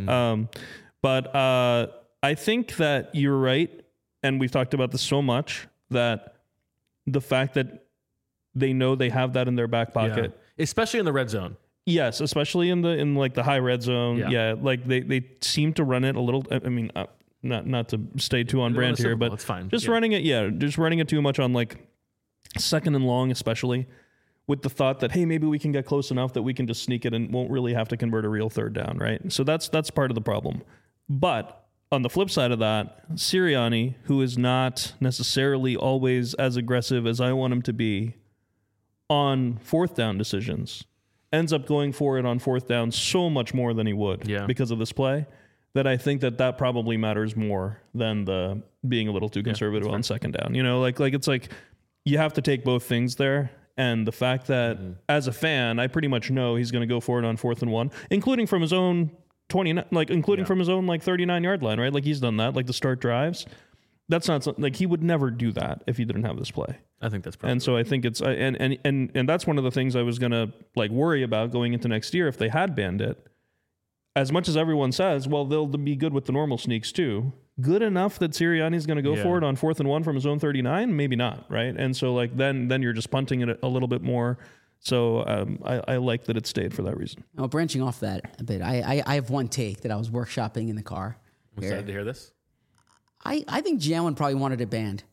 C: But I think that you're right, and we've talked about this so much, that the fact that they know they have that in their back pocket,
A: especially in the red zone.
C: Yes, especially in the high red zone. Yeah, like they seem to run it a little. I mean, not to stay too on brand here, but
A: it's fine.
C: Just running it too much on like second and long, especially. With the thought that, hey, maybe we can get close enough that we can just sneak it and won't really have to convert a real third down, right? So that's part of the problem. But on the flip side of that, Sirianni, who is not necessarily always as aggressive as I want him to be on fourth down decisions, ends up going for it on fourth down so much more than he would because of this play, that I think that probably matters more than the being a little too conservative on second down. It's like you have to take both things there. And the fact that as a fan, I pretty much know he's going to go for it on 4th and 1, including from his own 29, from his own 39-yard line, right? Like he's done that, like the start drives. That's not something, like he would never do that if he didn't have this play.
A: I think that's probably.
C: And so I think it's and that's one of the things I was going to worry about going into next year if they had banned it. As much as everyone says, well, they'll be good with the normal sneaks too. Good enough that Sirianni's going to go for it on 4th and 1 from his own 39? Maybe not, right? And so then you're just punting it a little bit more. So I like that it stayed for that reason.
D: Oh, branching off that a bit, I have one take that I was workshopping in the car.
A: I'm excited to hear this.
D: I think Jalen probably wanted it banned.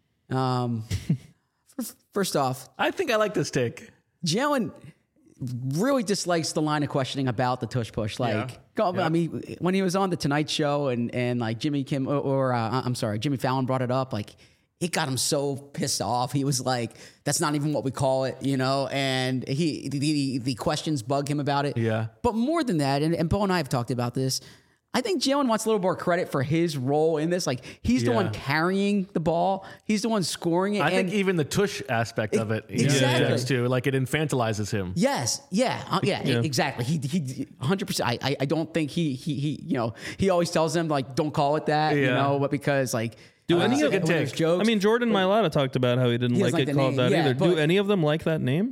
D: First off,
A: I think I like this take.
D: Jalen really dislikes the line of questioning about the tush push. I mean, when he was on the Tonight Show and like Jimmy Fallon brought it up, like it got him so pissed off. He was like, "That's not even what we call it," And the questions bug him about it.
A: Yeah.
D: But more than that, and Bo and I have talked about this. I think Jalen wants a little more credit for his role in this. Like he's the one carrying the ball. He's the one scoring it.
A: I think even the tush aspect of it,
D: exactly,
A: too. Like it infantilizes him.
D: Yes, exactly. He 100%. I don't think he always tells them like don't call it that, but because like.
C: Do any of them
D: jokes?
C: I mean, Jordan Mailata talked about how he didn't like it called that either. Do any of them like that name?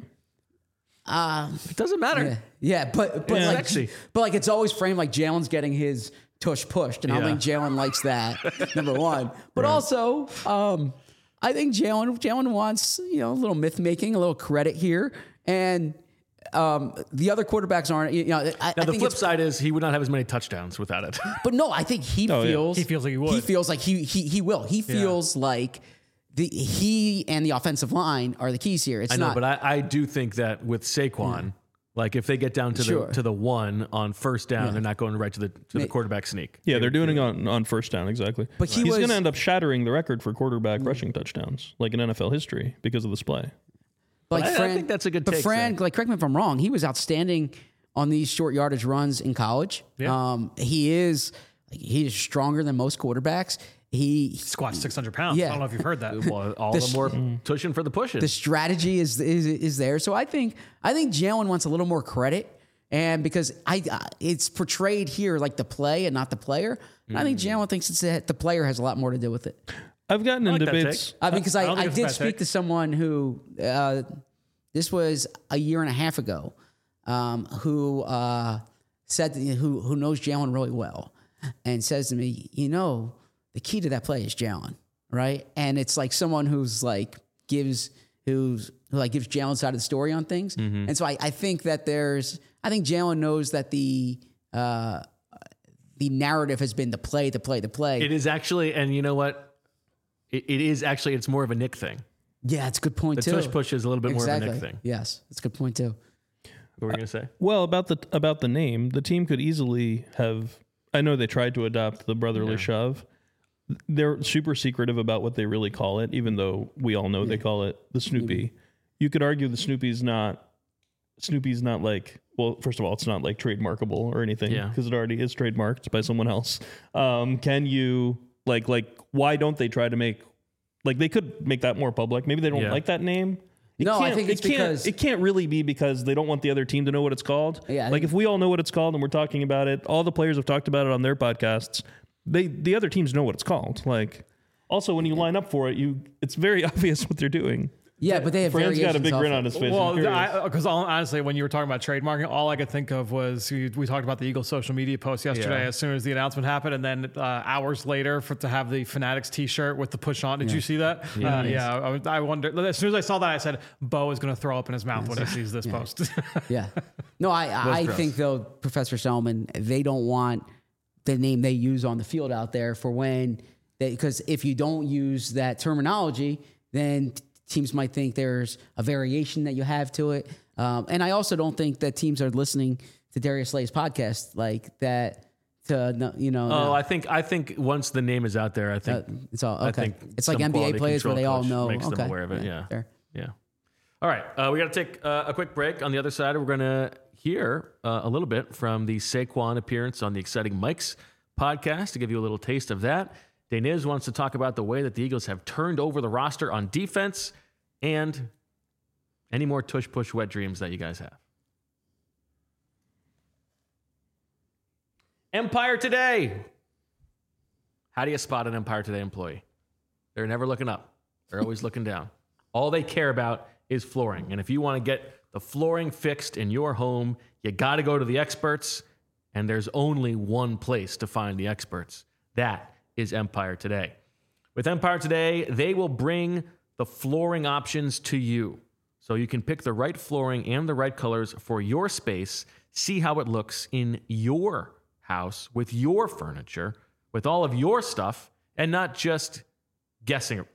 A: It doesn't matter.
D: But it's always framed like Jalen's getting his tush pushed, and I don't think Jalen likes that. Number one, but also I think Jalen wants a little myth making, a little credit here, and the other quarterbacks aren't.
A: The flip side is he would not have as many touchdowns without it.
D: But no, I think he feels
B: like he would.
D: He feels like he will. He feels like. He and the offensive line are the keys here.
A: But I do think that with Saquon, like if they get down to the 1 on first down, they're not going right to the quarterback sneak.
C: Yeah, they're doing it on first down, exactly.
D: But
C: he's going to end up shattering the record for quarterback rushing touchdowns, like in NFL history, because of this play.
D: But
A: I think that's a good take.
D: But Fran, correct me if I'm wrong, he was outstanding on these short yardage runs in college.
A: Yeah.
D: He is stronger than most quarterbacks. He
B: squats 600 pounds.
D: Yeah.
B: I don't know if you've heard that.
A: Well, all the more tushing for the pushing.
D: The strategy is there. So I think Jalen wants a little more credit, and because it's portrayed here like the play and not the player. I think Jalen thinks the player has a lot more to do with it.
C: I've gotten in debates.
D: I mean, because I did speak to someone who this was a year and a half ago, who said who knows Jalen really well, and says to me, the key to that play is Jalen. right? And it's like someone who's like gives Jalen's side of the story on things. And so I think that I think Jalen knows that the narrative has been the play.
A: It is actually, and you know what? It is actually, it's more of a Nick thing.
D: Yeah, it's a good point too.
A: The tush push is a little bit more of a Nick thing.
D: Yes, that's a good point too.
A: What were you going to say?
C: Well, about the name, the team could easily have. I know they tried to adopt the brotherly shove. They're super secretive about what they really call it, even though we all know they call it the Snoopy. You could argue the Snoopy's not like, well, first of all, it's not like trademarkable or anything because it already is trademarked by someone else. Can you like why don't they try to make, like, they could make that more public? Maybe they don't like that name.
D: I think it's because
C: it can't really be because they don't want the other team to know what it's called.
D: Yeah,
C: like if we all know what it's called and we're talking about it, all the players have talked about it on their podcasts. The other teams know what it's called. Like, also when you line up for it, it's very obvious what they're doing.
D: Yeah, but they have
C: Fran's got a big grin on his face.
B: Well, because honestly, when you were talking about trademarking, all I could think of was we talked about the Eagles social media post yesterday as soon as the announcement happened, and then hours later to have the Fanatics T-shirt with the push on. Did you see that? I wondered. As soon as I saw that, I said, Bo is going to throw up in his mouth when he sees this post.
D: Yeah. No, I think, though, Professor Selman, they don't want the name they use on the field out there for when because if you don't use that terminology, then teams might think there's a variation that you have to it. And I also don't think that teams are listening to Darius Slay's podcast like that
A: I think once the name is out there, I think
D: it's all okay.
A: I think
D: it's like NBA players where they all know.
A: Makes them aware of it. Yeah. All right. We got to take a quick break. On the other side, we're going to hear a little bit from the Saquon appearance on the Exciting Mikes podcast to give you a little taste of that. Deniz wants to talk about the way that the Eagles have turned over the roster on defense and any more tush-push wet dreams that you guys have. Empire Today. How do you spot an Empire Today employee? They're never looking up. They're always looking down. All they care about is flooring. And if you want to get the flooring fixed in your home, you got to go to the experts. And there's only one place to find the experts. That is Empire Today. With Empire Today, they will bring the flooring options to you. So you can pick the right flooring and the right colors for your space, see how it looks in your house, with your furniture, with all of your stuff, and not just guessing.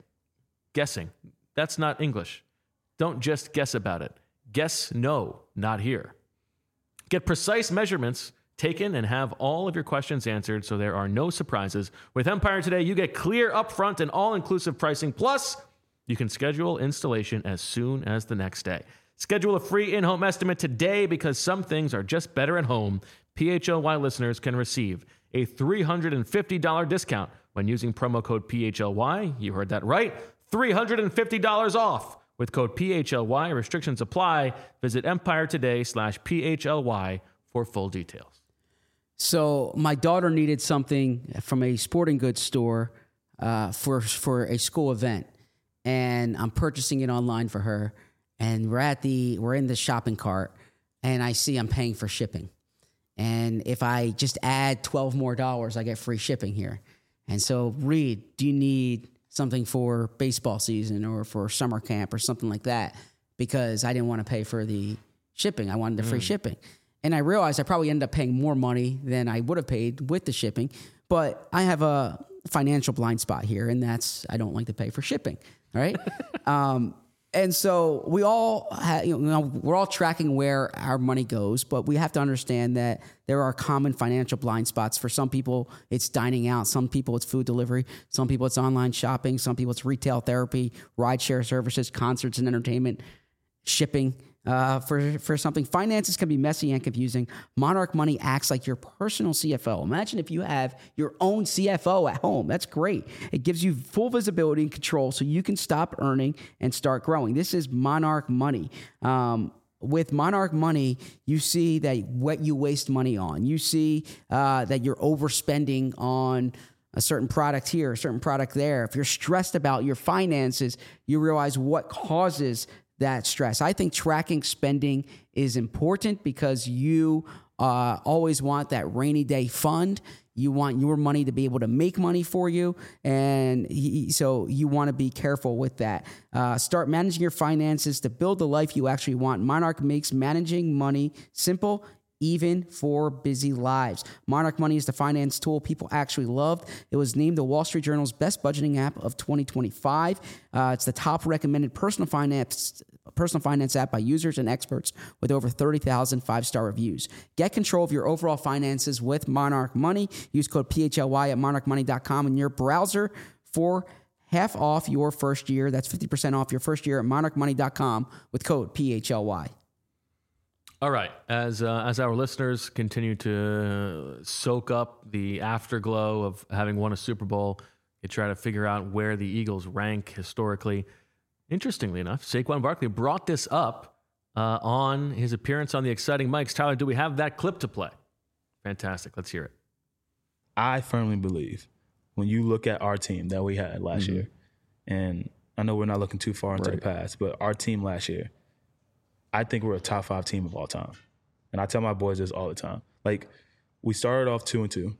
A: That's not English. Don't just guess about it. Guess no, not here. Get precise measurements taken and have all of your questions answered so there are no surprises. With Empire Today, you get clear, upfront, and all-inclusive pricing. Plus, you can schedule installation as soon as the next day. Schedule a free in-home estimate today because some things are just better at home. PHLY listeners can receive a $350 discount when using promo code PHLY. You heard that right. $350 off with code PHLY. Restrictions apply. Visit EmpireToday.com/PHLY for full details.
D: So my daughter needed something from a sporting goods store for a school event, and I'm purchasing it online for her. And we're in the shopping cart, and I see I'm paying for shipping. And if I just add $12 more, I get free shipping here. And so, Reed, do you need something for baseball season or for summer camp or something like that? Because I didn't want to pay for the shipping. I wanted the free shipping. And I realized I probably ended up paying more money than I would have paid with the shipping. But I have a financial blind spot here, and that's I don't like to pay for shipping, right? And so we all we're all tracking where our money goes, but we have to understand that there are common financial blind spots. For some people, it's dining out. Some people, it's food delivery. Some people, it's online shopping. Some people, it's retail therapy, rideshare services, concerts and entertainment, shipping. For something. Finances can be messy and confusing. Monarch Money acts like your personal CFO. Imagine if you have your own CFO at home. That's great. It gives you full visibility and control so you can stop earning and start growing. This is Monarch Money. With Monarch Money, you see that what you waste money on. You see that you're overspending on a certain product here, a certain product there. If you're stressed about your finances, you realize what causes that stress. I think tracking spending is important because you always want that rainy day fund. You want your money to be able to make money for you. And so you want to be careful with that. Start managing your finances to build the life you actually want. Monarch makes managing money simple, even for busy lives. Monarch Money is the finance tool people actually loved. It was named the Wall Street Journal's best budgeting app of 2025. It's the top recommended personal finance app by users and experts with over 30,000 five-star reviews. Get control of your overall finances with Monarch Money. Use code PHLY at monarchmoney.com in your browser for half off your first year. That's 50% off your first year at monarchmoney.com with code PHLY.
A: All right. As our listeners continue to soak up the afterglow of having won a Super Bowl, they try to figure out where the Eagles rank historically. Interestingly enough, Saquon Barkley brought this up on his appearance on the Exciting Mics. Tyler, do we have that clip to play? Fantastic. Let's hear it.
E: I firmly believe when you look at our team that we had last year, and I know we're not looking too far into the past, but our team last year, I think we're a top 5 team of all time. And I tell my boys this all the time. Like, we started off 2-2,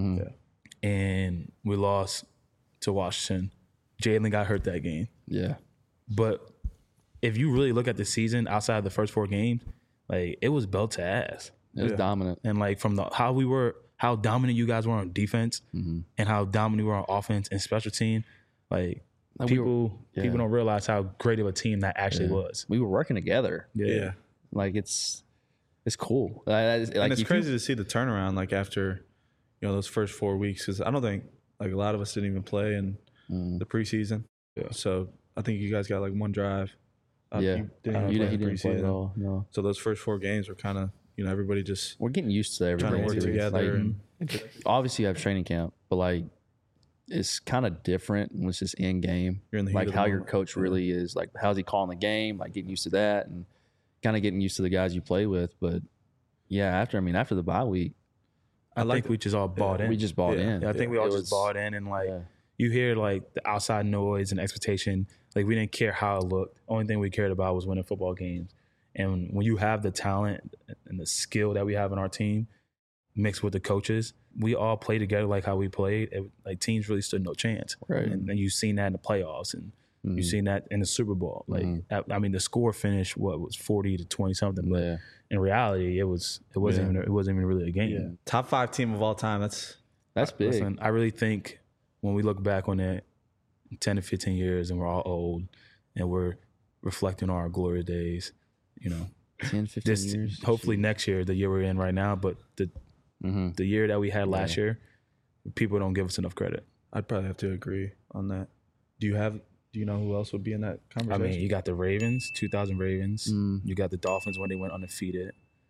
E: and we lost to Washington. Jalen got hurt that game.
F: Yeah.
E: But if you really look at the season outside of the first 4 games, like, it was belt to ass.
F: It was dominant.
E: And, like, from how dominant you guys were on defense and how dominant we were on offense and special team, like people don't realize how great of a team that actually was.
F: We were working together.
E: Yeah.
F: Like, it's cool.
G: And it's crazy to see the turnaround, like, after, those first 4 weeks, because I don't think, like, a lot of us didn't even play in the preseason. Yeah. So I think you guys got, like, one drive.
F: You didn't play at all. No.
G: So those first 4 games were kind of, everybody just
F: we're getting used to everybody
G: trying to work together.
F: Like, obviously, you have training camp, but, like, it's kind of different when it's just in game.
G: You're in the heat
F: like
G: of the
F: how your
G: moment.
F: coach really is. Like, how's he calling the game? Like, getting used to that and kind of getting used to the guys you play with. But yeah, after the bye week,
E: I think we just all bought in.
F: we just bought in.
E: Yeah, I think we all just bought in, and like you hear like the outside noise and expectation. Like, we didn't care how it looked. Only thing we cared about was winning football games. And when you have the talent and the skill that we have in our team, mixed with the coaches, we all play together like how we played. Like, teams really stood no chance.
F: Right.
E: And you've seen that in the playoffs, and you've seen that in the Super Bowl. Like, I mean, the score finished was 40-20 something, but in reality, it wasn't even really a game.
G: Yeah. Top 5 team of all time. That's
F: big.
E: Listen, I really think when we look back on that 10 to 15 years and we're all old and we're reflecting on our glory days,
F: 10, 15 years.
E: Hopefully next year, the year we're in right now, but the year that we had last year, people don't give us enough credit.
G: I'd probably have to agree on that. Do you know who else would be in that conversation?
E: I mean, you got the Ravens, 2000 Ravens. You got the Dolphins when they went undefeated.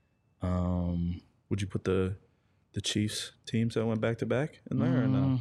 G: Would you put the Chiefs teams that went back-to-back in there or no?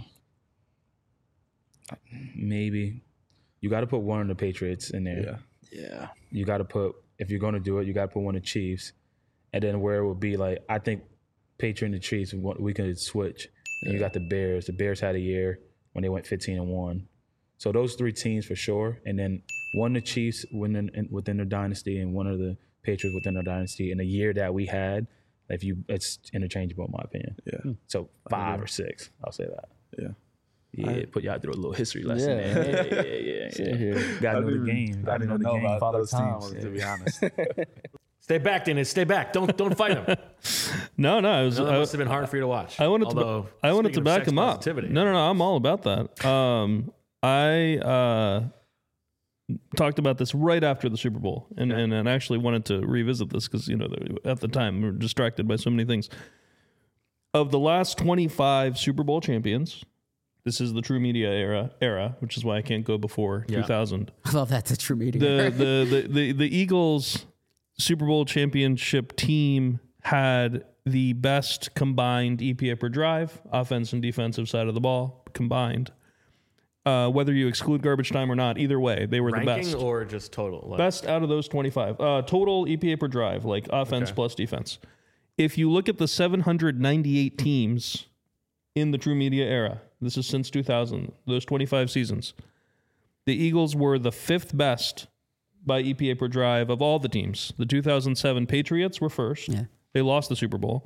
E: Maybe. You got to put one of the Patriots in there.
F: Yeah.
E: You got to put, if you're going to do it, you got to put one of the Chiefs. And then where it would be like, I think Patriot and the Chiefs, we could switch. And you got the Bears. The Bears had a year when they went 15-1. So those 3 teams for sure. And then one of the Chiefs within their dynasty and one of the Patriots within their dynasty. In the year that we had, it's interchangeable in my opinion.
G: Yeah.
E: So 5 or 6, I'll say that.
G: Yeah.
E: Yeah, put y'all through a little history lesson. Yeah. Got to know the game. Got to know the game.
G: Those teams, to be honest.
A: Stay back, Dennis. Stay back. Don't fight him.
C: No,
A: That must have been hard for you to watch.
C: I wanted to back him up. No, I'm all about that. I talked about this right after the Super Bowl, and actually wanted to revisit this because at the time we were distracted by so many things. Of the last 25 Super Bowl champions, this is the True Media era, which is why I can't go before 2000.
D: I love that, the True Media.
C: The Eagles Super Bowl championship team had the best combined EPA per drive, offense and defensive side of the ball combined. Whether you exclude garbage time or not, either way, they were the best.
A: Ranking or just total?
C: Best out of those 25. Total EPA per drive, like offense plus defense. If you look at the 798 teams in the True Media era, this is since 2000, those 25 seasons, the Eagles were the 5th best by EPA per drive of all the teams. The 2007 Patriots were first. Yeah. They lost the Super Bowl.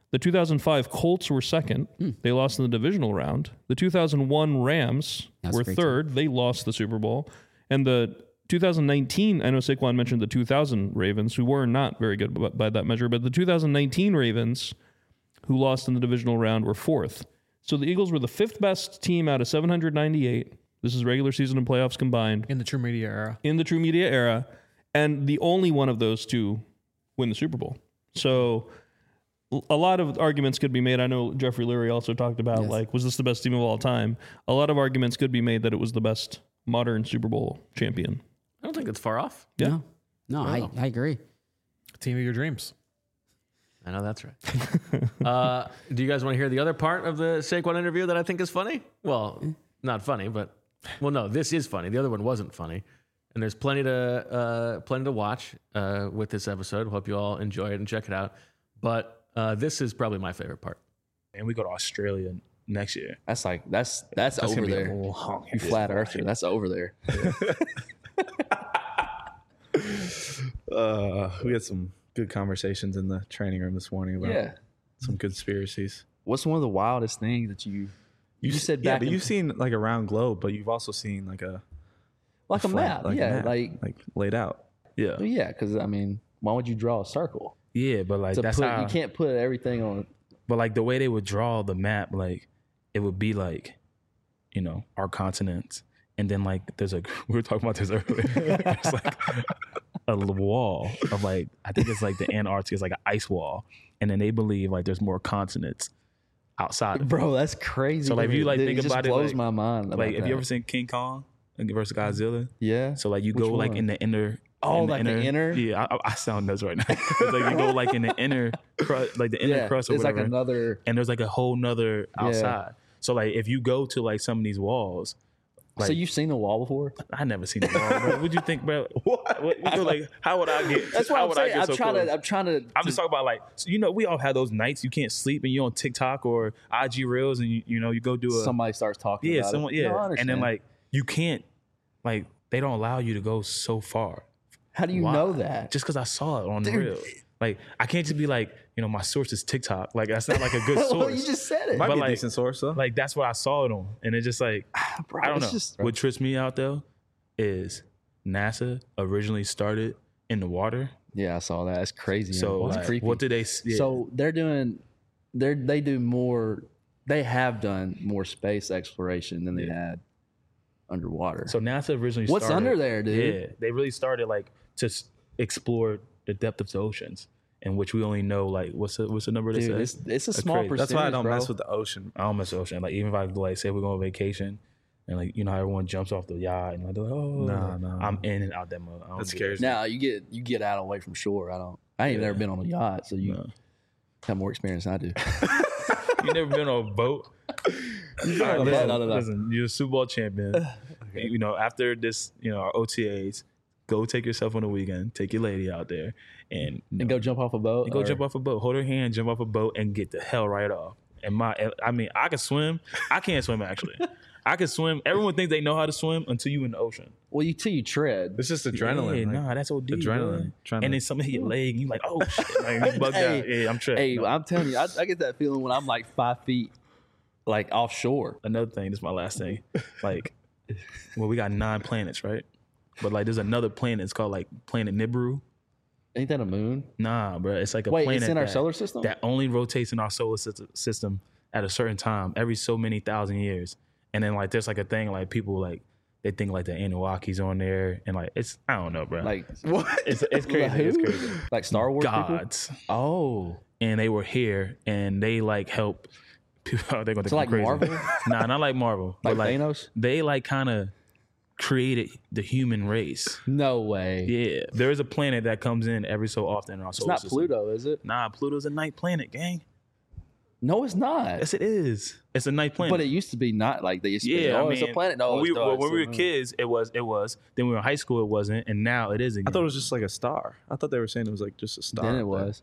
C: The 2005 Colts were second. They lost in the divisional round. The 2001 Rams were third. They lost the Super Bowl. And the 2019, I know Saquon mentioned the 2000 Ravens, who were not very good by that measure, but the 2019 Ravens, who lost in the divisional round, were fourth. So the Eagles were the fifth best team out of 798. This is regular season and playoffs combined.
B: In the True Media era.
C: In the True Media era. And the only one of those two win the Super Bowl. So a lot of arguments could be made. I know Jeffrey Lurie also talked about, like, was this the best team of all time? A lot of arguments could be made that it was the best modern Super Bowl champion.
A: I don't think it's far off.
C: Yeah.
D: No, I agree.
B: Team of your dreams.
A: I know that's right. Do you guys want to hear the other part of the Saquon interview that I think is funny? Well, not funny, but no, this is funny. The other one wasn't funny, and there's plenty to watch with this episode. Hope you all enjoy it and check it out. But this is probably my favorite part.
E: And we go to Australia next year.
F: That's over there. You flat earther. That's over there.
G: We had some good conversations in the training room this morning about some conspiracies.
F: What's one of the wildest things that you said back?
G: Yeah, but you've seen like a round globe, but you've also seen like a
F: map.
G: Like laid out. Yeah.
F: Yeah, because I mean, why would you draw a circle?
E: Yeah, but like that's how
F: you can't put everything on.
E: But like the way they would draw the map, like it would be like, you know, our continents, and then like there's like we were talking about this earlier. There's like a wall of like I think it's like the Antarctica is like an ice wall, and then they believe like there's more continents outside of it.
F: Bro, that's crazy.
E: So like if you like think about it,
F: blows
E: like,
F: my mind.
E: Like have you ever seen King Kong versus Godzilla?
F: Yeah.
E: So like you go like in the inner.
F: Oh, like the inner?
E: Yeah, I sound nuts right now. It's like you go like in the inner crust, like the inner crust or
F: it's
E: whatever.
F: Like another,
E: and there's like a whole nother outside. So like if you go to like some of these walls. Like,
F: so you've seen the wall before?
E: I never seen the wall, bro. What'd you think, bro? What like how would I get?
F: That's what I'm saying. I'm
E: just talking about like so, you know, we all have those nights you can't sleep and you're on TikTok or IG Reels and you know you go do
F: somebody starts talking about it.
E: Yeah, and then like you can't like they don't allow you to go so far.
F: How do you know that?
E: Just because I saw it on the reel. Like, I can't just be like, you know, my source is TikTok. Like, that's not like a good source.
F: Well, you just said it.
G: Might be
E: like,
G: a decent source, though.
E: Like, that's what I saw it on. And it's just like,
F: bro,
E: I don't know. What trips me out, though, is NASA originally started in the water.
F: Yeah, I saw that. It's crazy.
E: So, like,
F: creepy.
E: what did they... Yeah.
F: So, they have done more space exploration than they had underwater.
E: So, NASA originally
F: What's
E: started...
F: under there, dude?
E: Yeah, they really started, like, to explore the depth of the oceans, in which we only know like what's the number they say?
F: It's a small percentage.
G: That's why I don't
F: bro.
G: mess with the ocean.
E: I don't mess with the ocean. Like even if I like say we're going on vacation, and like you know how everyone jumps off the yacht and like they're like, oh
G: no,
E: I'm in and out that mode.
G: That scares me.
F: Now you get out away from shore. I ain't never been on a yacht, so you have more experience than I do.
E: You never been on a boat? Listen, you're a Super Bowl champion. Okay. You know after this, you know our OTAs. Go take yourself on the weekend. Take your lady out there and
F: go jump off a boat.
E: Jump off a boat. Hold her hand, jump off a boat, and get the hell right off. And I mean, I can swim. I can't swim actually. I can swim. Everyone thinks they know how to swim until you in the ocean.
F: Well, till you tread.
G: It's just adrenaline.
E: Yeah, that's OD.
G: Adrenaline.
E: And then something hit your leg, and you like, oh shit, like, you bugged out. Yeah, I'm tripping.
F: Hey, I'm telling you, I get that feeling when I'm like 5 feet, like offshore.
E: Another thing. This is my last thing. Like, well, we got 9 planets, right? But like, there's another planet. It's called like Planet Nibiru.
F: Ain't that a moon?
E: Nah, bro. It's like a planet.
F: It's in our solar system
E: that only rotates in our solar system at a certain time every so many thousand years. And then like, there's like a thing like people like they think like the Anunnakis on there, and like it's I don't know, bro.
F: Like
G: what?
E: It's crazy. It's crazy.
F: Like Star Wars
E: gods.
F: People? Oh,
E: and they were here, and they like help. People, they're gonna think
F: like
E: crazy.
F: Marvel?
E: Nah, not like Marvel.
F: Like
E: but
F: Thanos?
E: They like kind of created the human race.
F: No way.
E: Yeah, there is a planet that comes in every so often in our solar system.
F: It's not Pluto, is it?
E: Nah, Pluto's a night planet, gang.
F: No, it's not.
E: Yes, it is. It's a night planet.
F: But it used to be not like they used to be.
E: Yeah,
F: Oh, it's a planet. No,
E: when we were kids, it was. Then we were in high school, it wasn't, and now it is again.
G: I thought it was just like a star. I thought they were saying it was like just a star.
F: Then it was.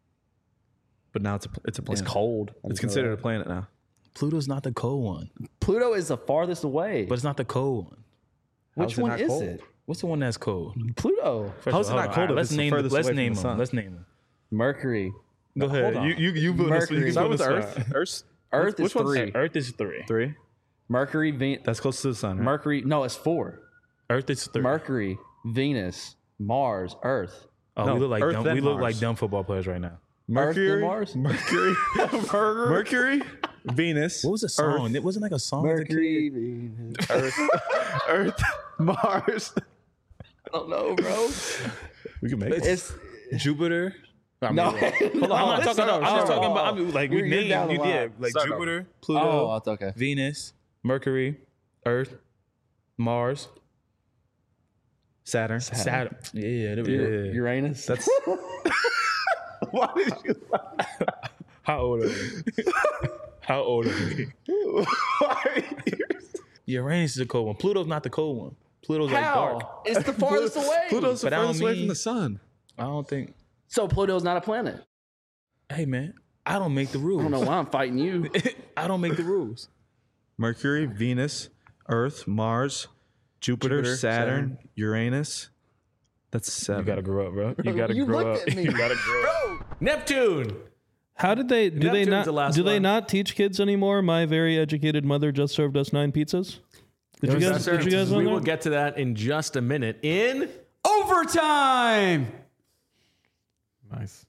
G: But now it's a planet.
F: It's cold.
G: It's considered a planet now.
E: Pluto's not the cold one,
F: Pluto is the farthest away.
E: but it's not the cold one.
F: Which one is it?
E: What's the one that's cold?
F: Pluto.
E: First
G: How's
E: of all,
G: it not cold if
E: Let's
G: it's
E: name.
G: furthest
E: Let's
G: away from
E: name
G: the
E: them.
G: sun?
E: Let's name them.
F: Mercury.
G: Go ahead.
B: hold on.
G: You put us. You
F: Mercury.
G: can
F: Start
G: put
F: with
G: us
F: Earth.
G: Earth.
F: Earth is 3.
E: Earth is 3.
G: 3.
F: Mercury,
G: That's close to the sun. Right?
F: Mercury. No, it's 4.
E: Earth is 3.
F: Mercury, Venus, Mars, Earth.
E: Oh,
G: No,
E: we look like
G: Earth
E: dumb,
G: then
E: we look
G: Mars.
E: like dumb football players right now.
G: Mercury,
F: Mars?
G: Mercury, Mercury, Venus.
E: What was the song?
G: Earth,
E: It wasn't like a song.
F: Mercury, Venus.
G: Earth, Mars.
F: I don't know, bro.
G: We can make it.
F: It's
E: Jupiter. I mean,
F: no.
E: hold on, I'm not talking about. I'm just talking about. I mean, like we
F: You're down
E: named.
F: the
E: Yeah,
F: line.
E: like
F: Start
E: Jupiter, Pluto,
F: Oh, that's okay.
E: Venus, Mercury, Earth, Mars,
G: Saturn.
E: Saturn. Yeah, there we go.
F: Uranus.
G: That's why did you?
E: How old are we? How old are we? Uranus is the cold one. Pluto's not the cold one. Pluto's like dark.
F: How? It's the farthest away.
G: Pluto's the
E: But I don't
G: furthest away
E: mean-
G: from the sun.
E: I don't think.
F: So Pluto's not a planet.
E: Hey man, I don't make the rules.
F: I don't know why I'm fighting you.
E: I don't make the rules.
G: Mercury, Venus, Earth, Mars, Jupiter, Saturn, Uranus. That's 7.
E: You gotta grow up, bro. You gotta
F: You
E: grow
F: looked
E: up.
F: at me.
E: You gotta grow up.
A: Neptune.
C: How did they do they
A: Neptune's
C: not
A: the last
C: do they
A: one.
C: not teach kids anymore? My very educated mother just served us 9 pizzas. Did you guys know
A: We
C: that?
A: will get to that in just a minute. In
D: Overtime.
B: Nice.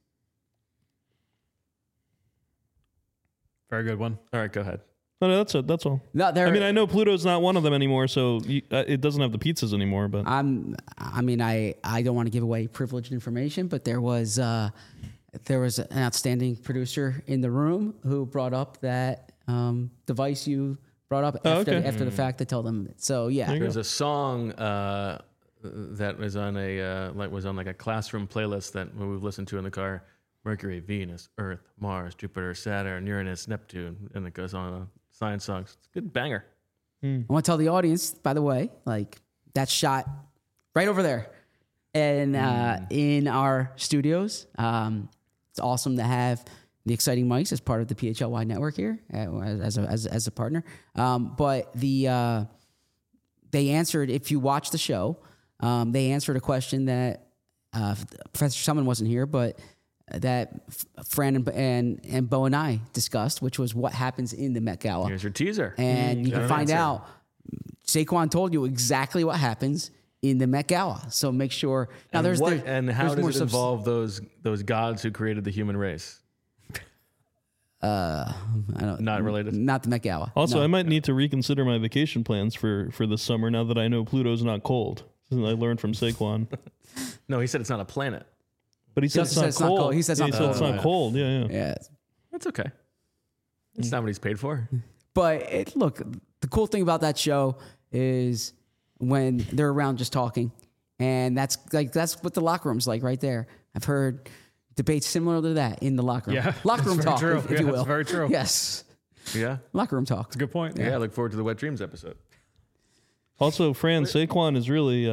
B: Very good one.
A: all right, go ahead.
C: No, that's it. That's all.
D: No, there.
C: I mean, I know Pluto's not one of them anymore, so it doesn't have the pizzas anymore. But
D: I don't want to give away privileged information, but there was an outstanding producer in the room who brought up that device you brought up after the fact to tell them. So yeah,
A: There's a song that was on a classroom playlist that we've listened to in the car. Mercury, Venus, Earth, Mars, Jupiter, Saturn, Uranus, Neptune, and it goes on. Science songs. It's a good banger.
D: I want to tell the audience, by the way, like that shot right over there, and in our studios. It's awesome to have the Exciting Mics as part of the PHLY network here as a partner. But they answered, if you watch the show, they answered a question that Professor Summon wasn't here, but that Fran and Bo and I discussed, which was what happens in the Met Gala.
A: Here's your teaser.
D: And you can find out, Saquon told you exactly what happens in the Met Gala. So make sure. Now
A: And
D: there's
A: what, and how
D: there's
A: does it involve those gods who created the human race?
D: I don't,
A: Not related.
D: Not the Met Gala.
C: also,
D: No.
C: I might need to reconsider my vacation plans for the summer now that I know Pluto's not cold. Something I learned from Saquon.
A: No, he said it's not a planet.
C: But he said
D: also
C: it's not cold.
D: He said it's
C: Yeah,
D: not
C: he said
D: cold.
C: it's not cold. Yeah.
D: Yeah.
A: That's okay. It's not what he's paid for.
D: But look, the cool thing about that show is when they're around just talking, and that's what the locker room's like right there. I've heard debates similar to that in the locker room.
B: Yeah,
D: Locker room
B: that's very
D: talk,
B: true.
D: if
B: Yeah,
D: you will.
B: that's very true.
D: Yes,
A: Yeah.
D: locker room talk.
B: That's a good point.
A: Yeah. I look forward to the Wet Dreams episode.
C: Also, Fran, Saquon is really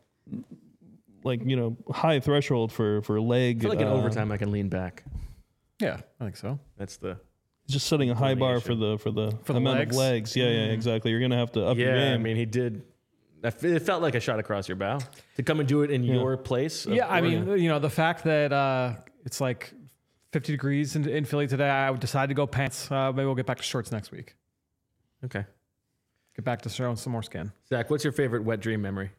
C: high threshold for leg.
A: I feel like in overtime I can lean back.
B: Yeah, I think so.
A: That's the
C: Just setting a high bar for the amount
B: legs?
C: of legs. Yeah, exactly. You're gonna have to up your
A: yeah.
C: game.
A: I mean, he did. It felt like a shot across your bow to come and do it in your place.
B: Yeah, I mean, the fact that it's like 50 degrees in Philly today, I would decide to go pants. Maybe we'll get back to shorts next week.
A: Okay.
B: Get back to showing some more skin.
A: Zach, what's your favorite wet dream memory?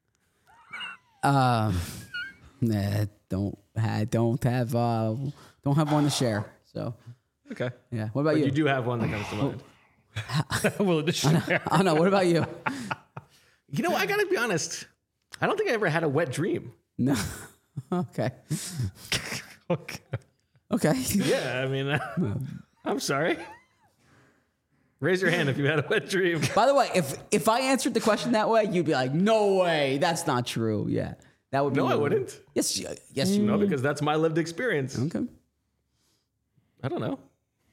D: Nah, don't have one to share. So
A: Okay.
D: yeah. What about
A: But
D: you?
A: you do have one that comes to mind.
B: Well, addition.
D: I don't know. What about you?
A: You know, I gotta be honest. I don't think I ever had a wet dream.
D: No. Okay.
B: Okay.
D: Okay.
A: Yeah, I mean, I'm sorry. Raise your hand if you had a wet dream.
D: By the way, if I answered the question that way, you'd be like, "No way, that's not true." Yeah, that would be.
A: No, I wouldn't.
D: Yes, yes, you
A: No,
D: would.
A: because that's my lived experience.
D: Okay.
A: I don't know.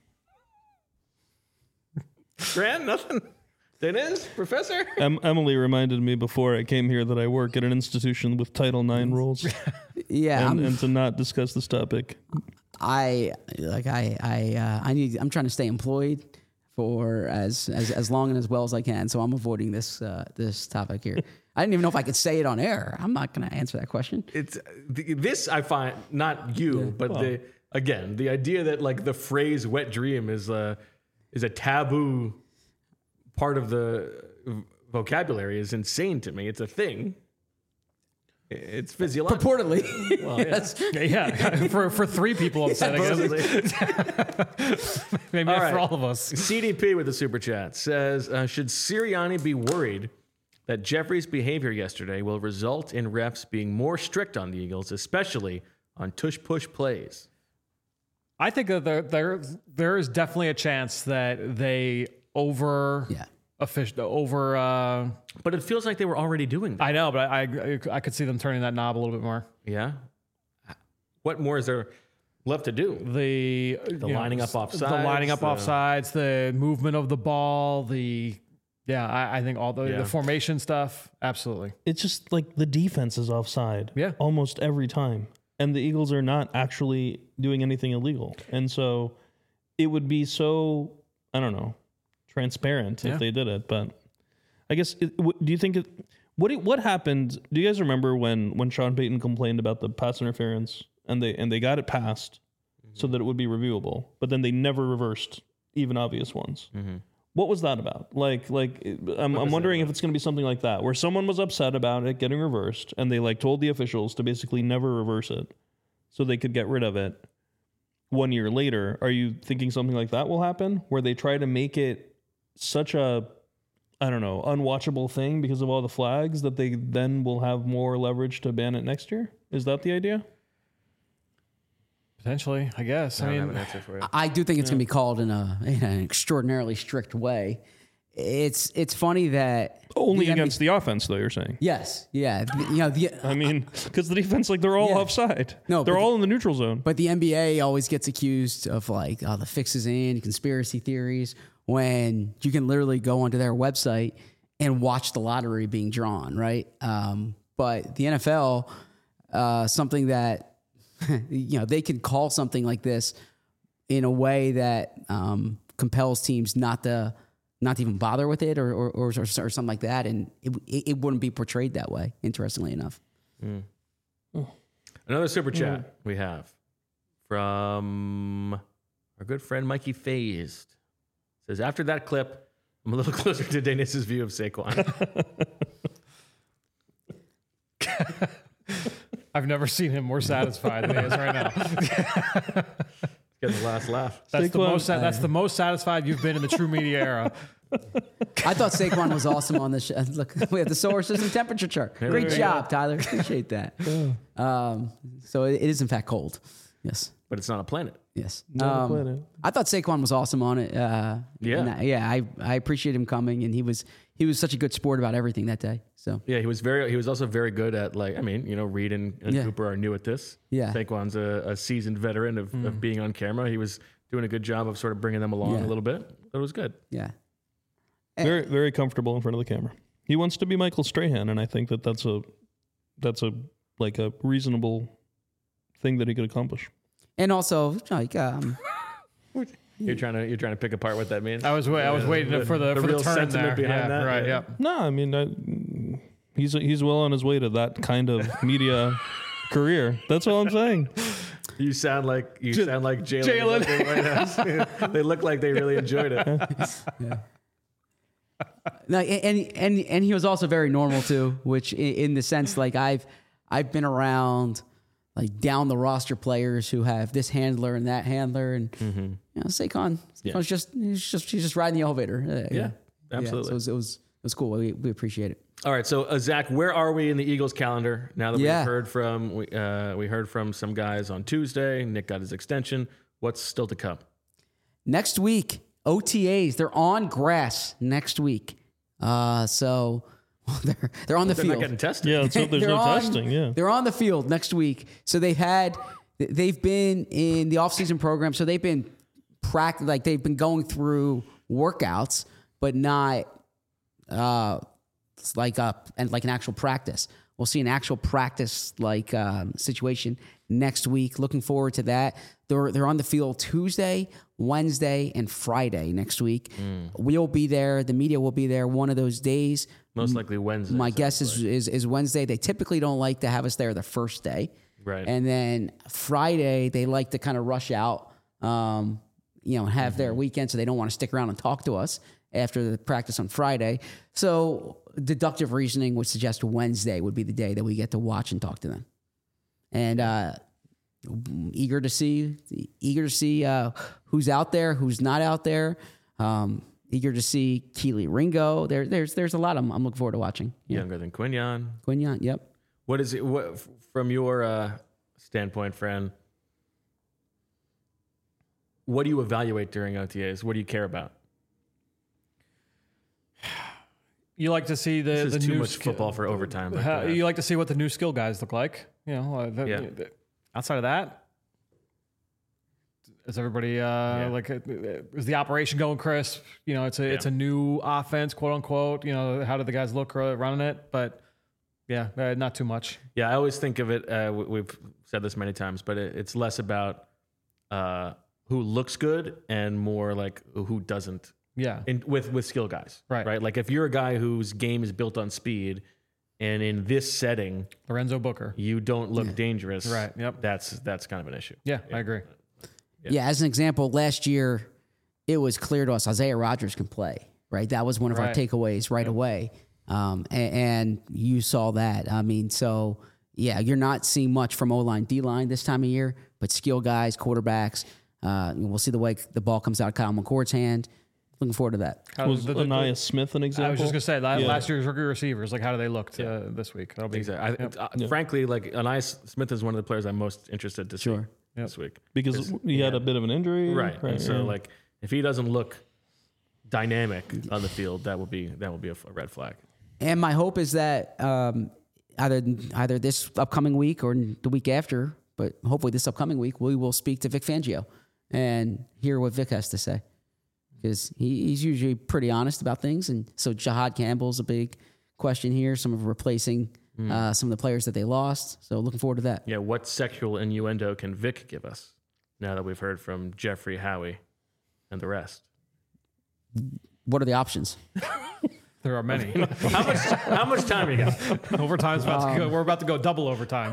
A: Grant, nothing. Dennis, Professor.
C: Emily reminded me before I came here that I work at an institution with Title IX rules,
D: Yeah,
C: and to not discuss this topic.
D: I'm trying to stay employed for as long and as well as I can, so I'm avoiding this topic here. I didn't even know if I could say it on air. I'm not going to answer that question.
A: It's this I find not you, but again, the idea that like the phrase "wet dream" is a taboo part of the vocabulary is insane to me. It's a thing. It's physiological.
D: Purportedly.
A: Well, yes.
B: Yeah, for 3 people upset, I guess. Maybe
A: All
B: not
A: right.
B: for all of us.
A: CDP with the super chat says, should Sirianni be worried that Jeffrey's behavior yesterday will result in refs being more strict on the Eagles, especially on tush-push plays?
B: I think that there is definitely a chance that they over
A: But it feels like they were already doing that.
B: I know, but I could see them turning that knob a little bit more.
A: Yeah. What more is there left to do?
B: The
A: lining up offsides,
B: the lining up offsides, the movement of the ball, I think all the formation stuff. Absolutely.
C: It's just like the defense is offside almost every time. And the Eagles are not actually doing anything illegal. And so it would be so, I don't know, transparent if they did it. But I guess, do you think what happened? Do you guys remember when Sean Payton complained about the pass interference and they got it passed so that it would be reviewable, but then they never reversed even obvious ones? Mm-hmm. What was that about? I'm wondering if it's going to be something like that, where someone was upset about it getting reversed, and they told the officials to basically never reverse it, so they could get rid of it 1 year later. Are you thinking something like that will happen, where they try to make it such a, I don't know, unwatchable thing because of all the flags that they then will have more leverage to ban it next year? Is that the idea?
B: Potentially, I guess.
A: I don't have an answer for you.
D: I do think it's going to be called in an extraordinarily strict way. It's funny that
C: only against the offense, though. You're saying
D: yes, yeah.
C: I mean, because the defense, they're all offside.
D: No,
C: they're all in the neutral zone.
D: But the NBA always gets accused of the fix is in, conspiracy theories, when you can literally go onto their website and watch the lottery being drawn, right? But the NFL, something that they can call something like this in a way that compels teams not to even bother with it or something like that, and it wouldn't be portrayed that way. Interestingly enough,
A: Another super chat we have from our good friend Mikey Phased says, after that clip, I'm a little closer to Danis's view of Saquon.
B: I've never seen him more satisfied than he is right now.
A: Getting the last laugh.
B: That's the most satisfied you've been in the True Media era.
D: I thought Saquon was awesome on this show. Look, we have the solar system temperature chart. Great job, Tyler. Appreciate that. So it is in fact cold. Yes.
A: But it's not a planet.
D: Yes.
C: Not a planet.
D: I thought Saquon was awesome on it. I appreciate him coming, and he was such a good sport about everything that day. So
A: yeah, he was also very good at Reed and Cooper are new at this.
D: Yeah.
A: Saquon's a seasoned veteran of being on camera. He was doing a good job of sort of bringing them along a little bit. It was good.
D: Yeah.
C: Very, very comfortable in front of the camera. He wants to be Michael Strahan, and I think that's a reasonable thing that he could accomplish.
D: And also,
A: You're trying to pick apart what that means.
B: I was waiting for the
A: real
B: turn
A: sentiment
B: there.
A: behind that.
B: Right. Yeah.
C: No, I mean, he's well on his way to that kind of media career. That's all I'm saying.
A: You sound like Jalen. They look like they really enjoyed it.
D: yeah. No, and he was also very normal too, which in the sense I've been around down the roster players who have this handler and that handler, and Saquon's he's just riding the elevator.
A: Yeah, absolutely.
D: So it was cool. We appreciate it.
A: All right, so Zach, where are we in the Eagles calendar now that we heard from some guys on Tuesday? Nick got his extension. What's still to come?
D: Next week, OTAs. They're on grass next week. So they're on the field.
A: They're not getting tested.
C: Yeah, so there's no testing. Yeah,
D: they're on the field next week. So they've been in the off-season program. So they've been they've been going through workouts, but not like an actual practice. We'll see an actual practice situation next week. Looking forward to that. They're on the field Tuesday, Wednesday, and Friday next week. We'll be there. The media will be there one of those days.
A: Most likely Wednesday.
D: My guess is Wednesday. They typically don't like to have us there the first day.
A: Right.
D: And then Friday, they like to kind of rush out, have their weekend, so they don't want to stick around and talk to us after the practice on Friday. So deductive reasoning would suggest Wednesday would be the day that we get to watch and talk to them. And eager to see who's out there, who's not out there. Eager to see Keely Ringo. There's a lot I'm looking forward to watching. Yeah.
A: Younger than Quinyon.
D: Quinyon, yep.
A: What is it? What from your standpoint, friend? What do you evaluate during OTAs? What do you care about?
B: You like to see the
A: This is too
B: new
A: much football for overtime. But,
B: you like to see what the new skill guys look like. Outside of that, is everybody is the operation going crisp? It's a new offense, quote unquote. How do the guys look running it? But not too much. Yeah,
A: I always think of it. We've said this many times, but it's less about who looks good and more like who doesn't.
B: Yeah,
A: with skill guys, right? Like if you're a guy whose game is built on speed, and in this setting,
B: Lorenzo Booker,
A: you don't look dangerous,
B: right? Yep,
A: that's kind of an issue.
B: Yeah, I agree.
D: Yeah, as an example, last year it was clear to us Isaiah Rodgers can play, right? That was one of our takeaways right away, and you saw that. I mean, so yeah, you're not seeing much from O-line, D-line this time of year, but skill guys, quarterbacks. We'll see the way the ball comes out of Kyle McCord's hand. Looking forward to that.
C: Was Anaya Smith an example?
B: I was just going to say, last year's rookie receivers, like how do they look this week?
A: Exactly. Frankly, like Anaya Smith is one of the players I'm most interested to see this week.
C: Because he had a bit of an injury.
A: Right. And so, like, if he doesn't look dynamic on the field, that will be a red flag.
D: And my hope is that either this upcoming week or the week after, but hopefully this upcoming week, we will speak to Vic Fangio and hear what Vic has to say. Because he's usually pretty honest about things. And so Jahad Campbell's a big question here, some of replacing some of the players that they lost. So looking forward to that.
A: Yeah, what sexual innuendo can Vic give us now that we've heard from Jeffrey, Howie, and the rest?
D: What are the options?
B: There are many.
A: How much time you got?
B: Overtime's about to go. We're about to go double overtime.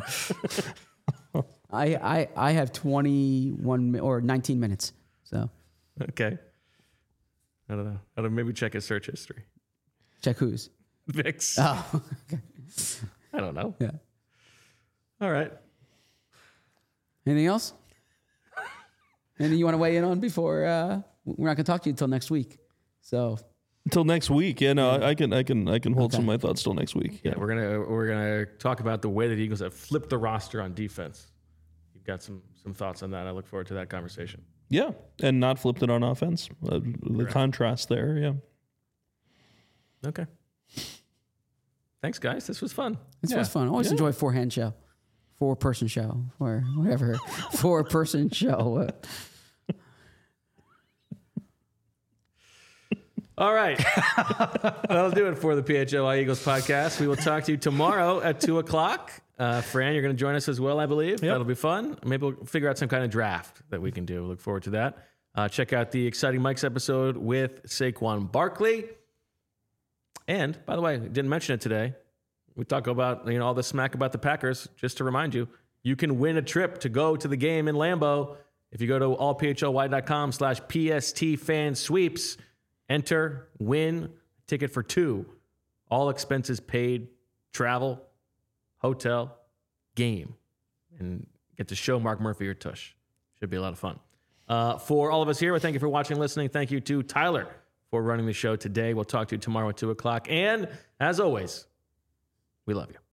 D: I have 21 or 19 minutes. So
A: okay. I don't know. I'll maybe check his search history.
D: Check whose?
A: Vic's.
D: Oh, okay.
A: I don't know.
D: Yeah.
A: All right.
D: Anything else? Anything you want to weigh in on before we're not going to talk to you until next week? So
C: until next week, I can hold some of my thoughts till next week.
A: Yeah, we're gonna talk about the way that the Eagles have flipped the roster on defense. You've got some thoughts on that. I look forward to that conversation.
C: Yeah, and not flipped it on offense. The contrast there, yeah.
A: Okay. Thanks, guys. This was fun.
D: This was fun. I always enjoy four-person show, or whatever. 4-person show.
A: All right. That'll do it for the PHLY Eagles podcast. We will talk to you tomorrow at 2:00. Fran, you're going to join us as well, I believe. Yep. That'll be fun. Maybe we'll figure out some kind of draft that we can do. Look forward to that. Check out the Exciting Mikes episode with Saquon Barkley. And, by the way, didn't mention it today. We talk about all the smack about the Packers. Just to remind you, you can win a trip to go to the game in Lambeau if you go to allphly.com/PSTFansweeps. Enter, win, ticket for 2. All expenses paid, travel, hotel, game. And get to show Mark Murphy your tush. Should be a lot of fun. For all of us here, we thank you for watching and listening. Thank you to Tyler for running the show today. We'll talk to you tomorrow at 2:00. And as always, we love you.